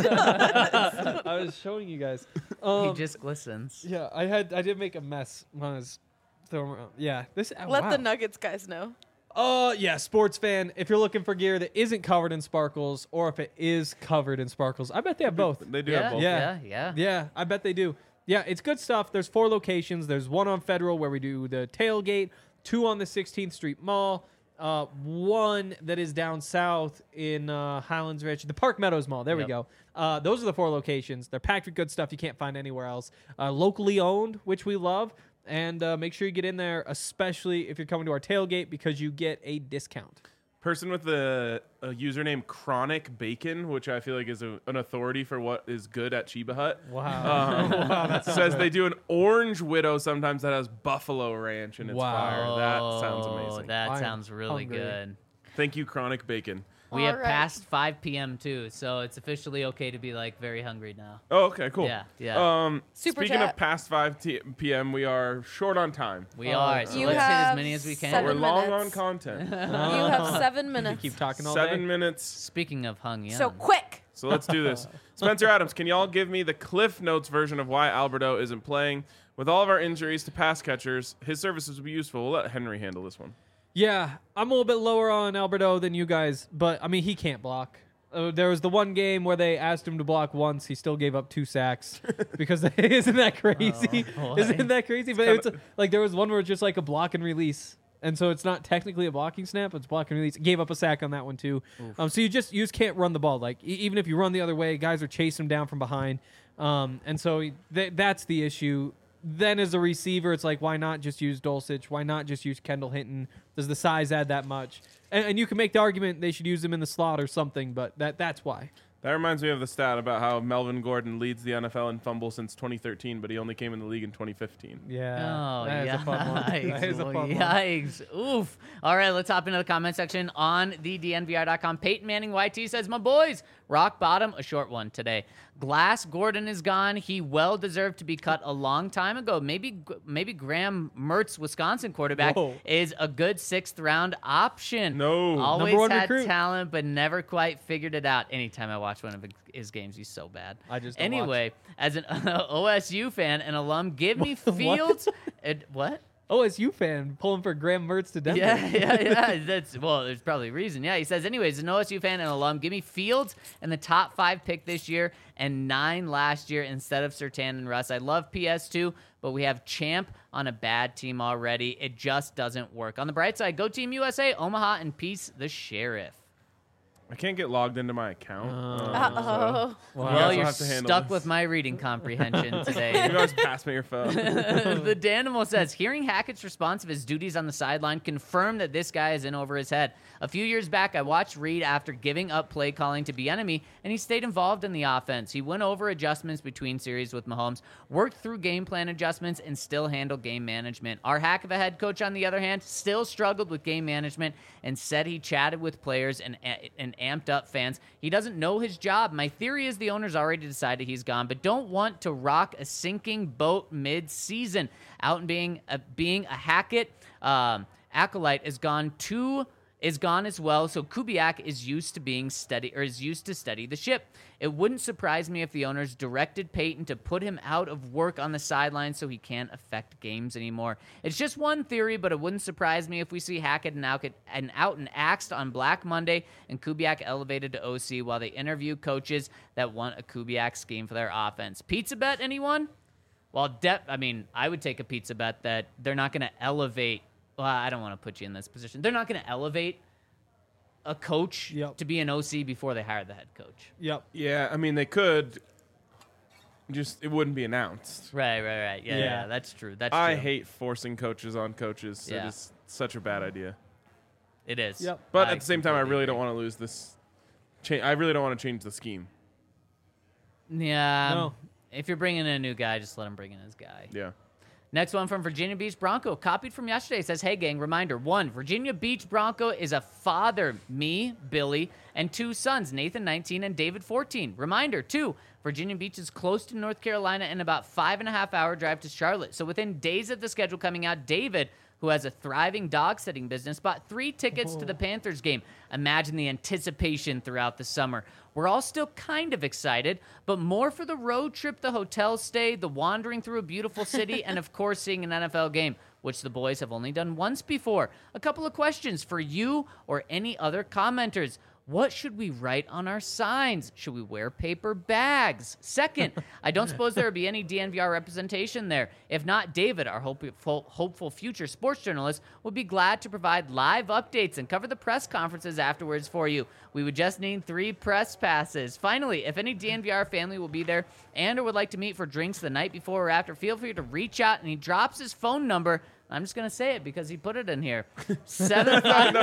I was showing you guys. He just glistens. Yeah, I did make a mess when I was throwing around. Yeah, this. Let wow. the Nuggets guys know. Yeah, Sports Fan. If you're looking for gear that isn't covered in sparkles, or if it is covered in sparkles, I bet they have both. They do Yeah, have both. yeah. Yeah, I bet they do. Yeah, it's good stuff. There's 4 locations. There's one on Federal where we do the tailgate, 2 on the 16th Street Mall, 1 that is down south in Highlands Ridge, the Park Meadows Mall. There we Yep. go. Those are the 4 locations. They're packed with good stuff you can't find anywhere else. Locally owned, which we love. And make sure you get in there, especially if you're coming to our tailgate, because you get a discount. Person with the username Chronic Bacon, which I feel like is an authority for what is good at Chiba Hut. Wow. Wow, that's Says they do an orange widow sometimes that has buffalo ranch and it's Wow. fire. That sounds Oh, amazing. That I'm sounds really hungry. good. Thank you, Chronic Bacon. We have All right. passed 5 p.m. too, so it's officially okay to be like very hungry now. Oh, okay, cool. Yeah. Super Speaking chat. of past 5 p.m., we are short on time. We Oh, are. So You let's hit as have many as we can. seven We're long minutes. on content. You have 7 minutes. Keep talking all 7 day. minutes. Speaking of hung young. So quick. So let's do this. Spencer Adams, can y'all give me the Cliff Notes version of why Alberto isn't playing? With all of our injuries to pass catchers, his services would be useful. We'll let Henry handle this one. Yeah, I'm a little bit lower on Alberto than you guys, but I mean, he can't block. There was the one game where they asked him to block once. He still gave up 2 sacks because isn't that crazy? Oh, boy. Isn't that crazy? But it's like there was one where it's just like a block and release, and so it's not technically a blocking snap; it's block and release. Gave up a sack on that one too. So you just can't run the ball. Like even if you run the other way, guys are chasing him down from behind, and so that's the issue. Then as a receiver, it's like, why not just use Dulcich? Why not just use Kendall Hinton? Does the size add that much? And you can make the argument they should use him in the slot or something, but that's why. That reminds me of the stat about how Melvin Gordon leads the NFL in fumbles since 2013, but he only came in the league in 2015. Yeah. Oh, that is a fun one. That is a fun one. Yikes. Oof. All right, let's hop into the comment section on the DNVR.com. Peyton Manning YT says, my boys, rock bottom, a short one today. Glass Gordon is gone. He well deserved to be cut a long time ago. Maybe Graham Mertz, Wisconsin quarterback, is a good 6th round option. No. Always Number 1 had recruit. talent, but never quite figured it out. Anytime I watch one of his games, he's so bad. I just don't Anyway, as an OSU fan and alum, give me Fields. What? OSU fan pulling for Graham Mertz to Denver. Yeah. There's probably a reason. Yeah, he says, anyways, an OSU fan and alum, give me Fields and the top 5 pick this year and 9 last year instead of Surtain and Russ. I love PS2, but we have Champ on a bad team already. It just doesn't work. On the bright side, go Team USA, Omaha, and peace the Sheriff. I can't get logged into my account. Uh-oh. Well, you're have to handle stuck this. with my reading comprehension today. You guys pass me your phone. The Danimal says, hearing Hackett's response of his duties on the sideline confirmed that this guy is in over his head. A few years back, I watched Reed after giving up play calling to Bieniemy, and he stayed involved in the offense. He went over adjustments between series with Mahomes, worked through game plan adjustments, and still handled game management. Our hack of a head coach, on the other hand, still struggled with game management and said he chatted with players and amped up fans. He doesn't know his job. My theory is the owner's already decided he's gone, but don't want to rock a sinking boat mid-season. Out and being a Hackett acolyte is gone as well, so Kubiak is used to steady the ship. It wouldn't surprise me if the owners directed Peyton to put him out of work on the sideline so he can't affect games anymore. It's just one theory, but it wouldn't surprise me if we see Hackett and out and axed on Black Monday and Kubiak elevated to OC while they interview coaches that want a Kubiak scheme for their offense. Pizza bet, anyone? Well, I would take a pizza bet that they're not going to elevate. Well, I don't want to put you in this position. They're not going to elevate a coach to be an OC before they hire the head coach. Yep. Yeah, I mean, they could. Just, it wouldn't be announced. Right. Yeah, that's true. I hate forcing coaches on coaches. Yeah. It is such a bad idea. It is. Yep. But at the same time, I really don't want to lose this. I really don't want to change the scheme. Yeah. No. If you're bringing in a new guy, just let him bring in his guy. Yeah. Next one from Virginia Beach Bronco, copied from yesterday, says, hey, gang, reminder. 1, Virginia Beach Bronco is a father, me, Billy, and 2 sons, Nathan, 19, and David, 14. Reminder. 2, Virginia Beach is close to North Carolina and about 5.5-hour drive to Charlotte. So within days of the schedule coming out, David, who has a thriving dog-sitting business, bought 3 tickets to the Panthers game. Imagine the anticipation throughout the summer. We're all still kind of excited, but more for the road trip, the hotel stay, the wandering through a beautiful city, and, of course, seeing an NFL game, which the boys have only done once before. A couple of questions for you or any other commenters. What should we write on our signs? Should we wear paper bags? Second, I don't suppose there would be any DNVR representation there. If not, David, our hopeful future sports journalist, would be glad to provide live updates and cover the press conferences afterwards for you. We would just need 3 press passes. Finally, if any DNVR family will be there and or would like to meet for drinks the night before or after, feel free to reach out, and he drops his phone number. I'm just going to say it because he put it in here. 75.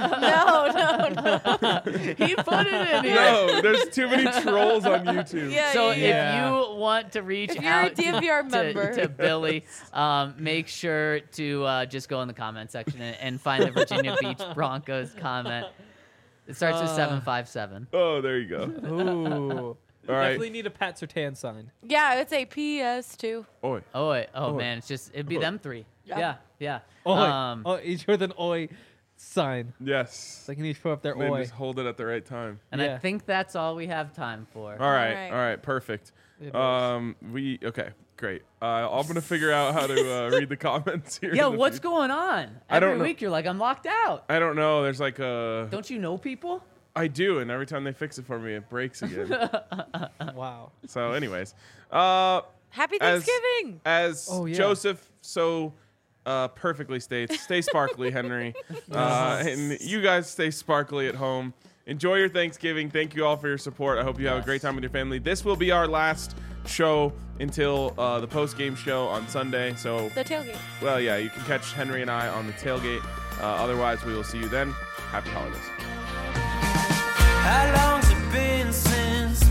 No. He put it in here. No, there's too many trolls on YouTube. So if you want to reach If you're out a DNVR member to Billy, make sure to just go in the comment section and find the Virginia Beach Broncos comment. It starts with 757. Oh, there you go. Ooh. All right. Definitely need a Pat Surtain sign. Yeah, it's a PS2. Oi. Oh man, it'd be them 3. Yeah. Oi. Each with an oi sign. Yes. They can each put up their Then oi. just hold it at the right time. And Yeah. I think that's all we have time for. All right. right. Perfect. It is. Okay, great. I'm gonna figure out how to read the comments here. Yeah, in the what's future. going on? I don't Every know. week you're like, I'm locked out. I don't know. There's like a. Don't you know people? I do, and every time they fix it for me, it breaks again. Wow. So, anyways, Happy As- Thanksgiving. as Oh, yeah. Joseph so perfectly states, stay sparkly, Henry, and you guys stay sparkly at home. Enjoy your Thanksgiving. Thank you all for your support. I hope you have a great time with your family. This will be our last show until the post-game show on Sunday. So, The tailgate. well, yeah, you can catch Henry and I on the tailgate. Otherwise, we will see you then. Happy holidays. How long's it been since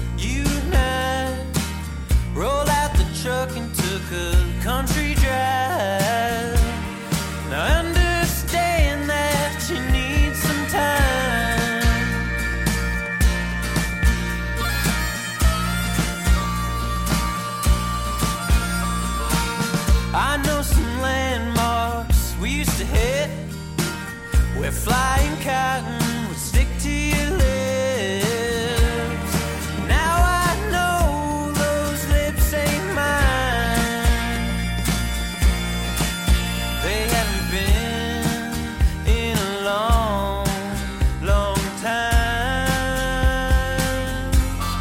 truck and took a country drive. Now I understand that you need some time. I know some landmarks we used to hit, where flying cotton would stick to your lips. Now I know those lips ain't mine. They haven't been in a long, long time.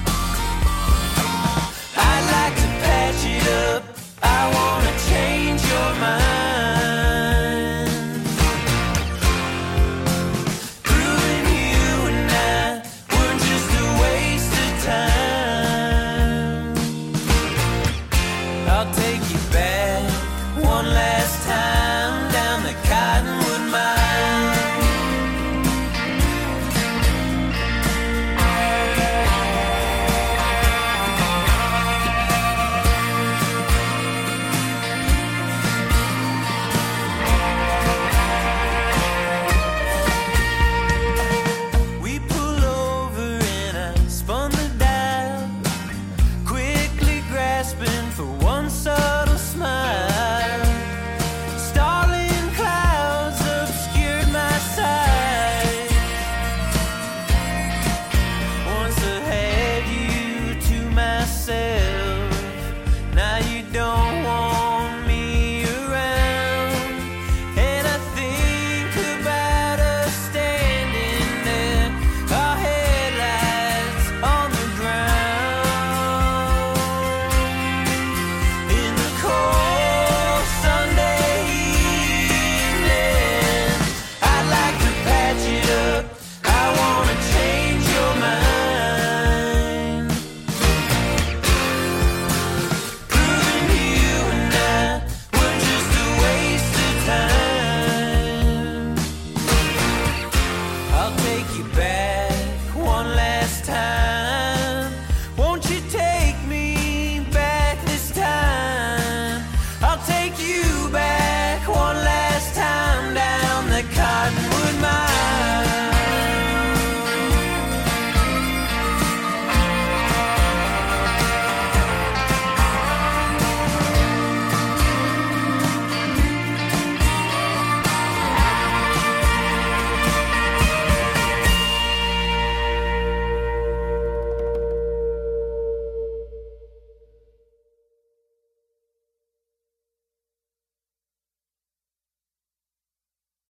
I'd like to patch it up. I wanna change your mind. Proving you and I were just a waste of time. I'll take you back one last time down the cotton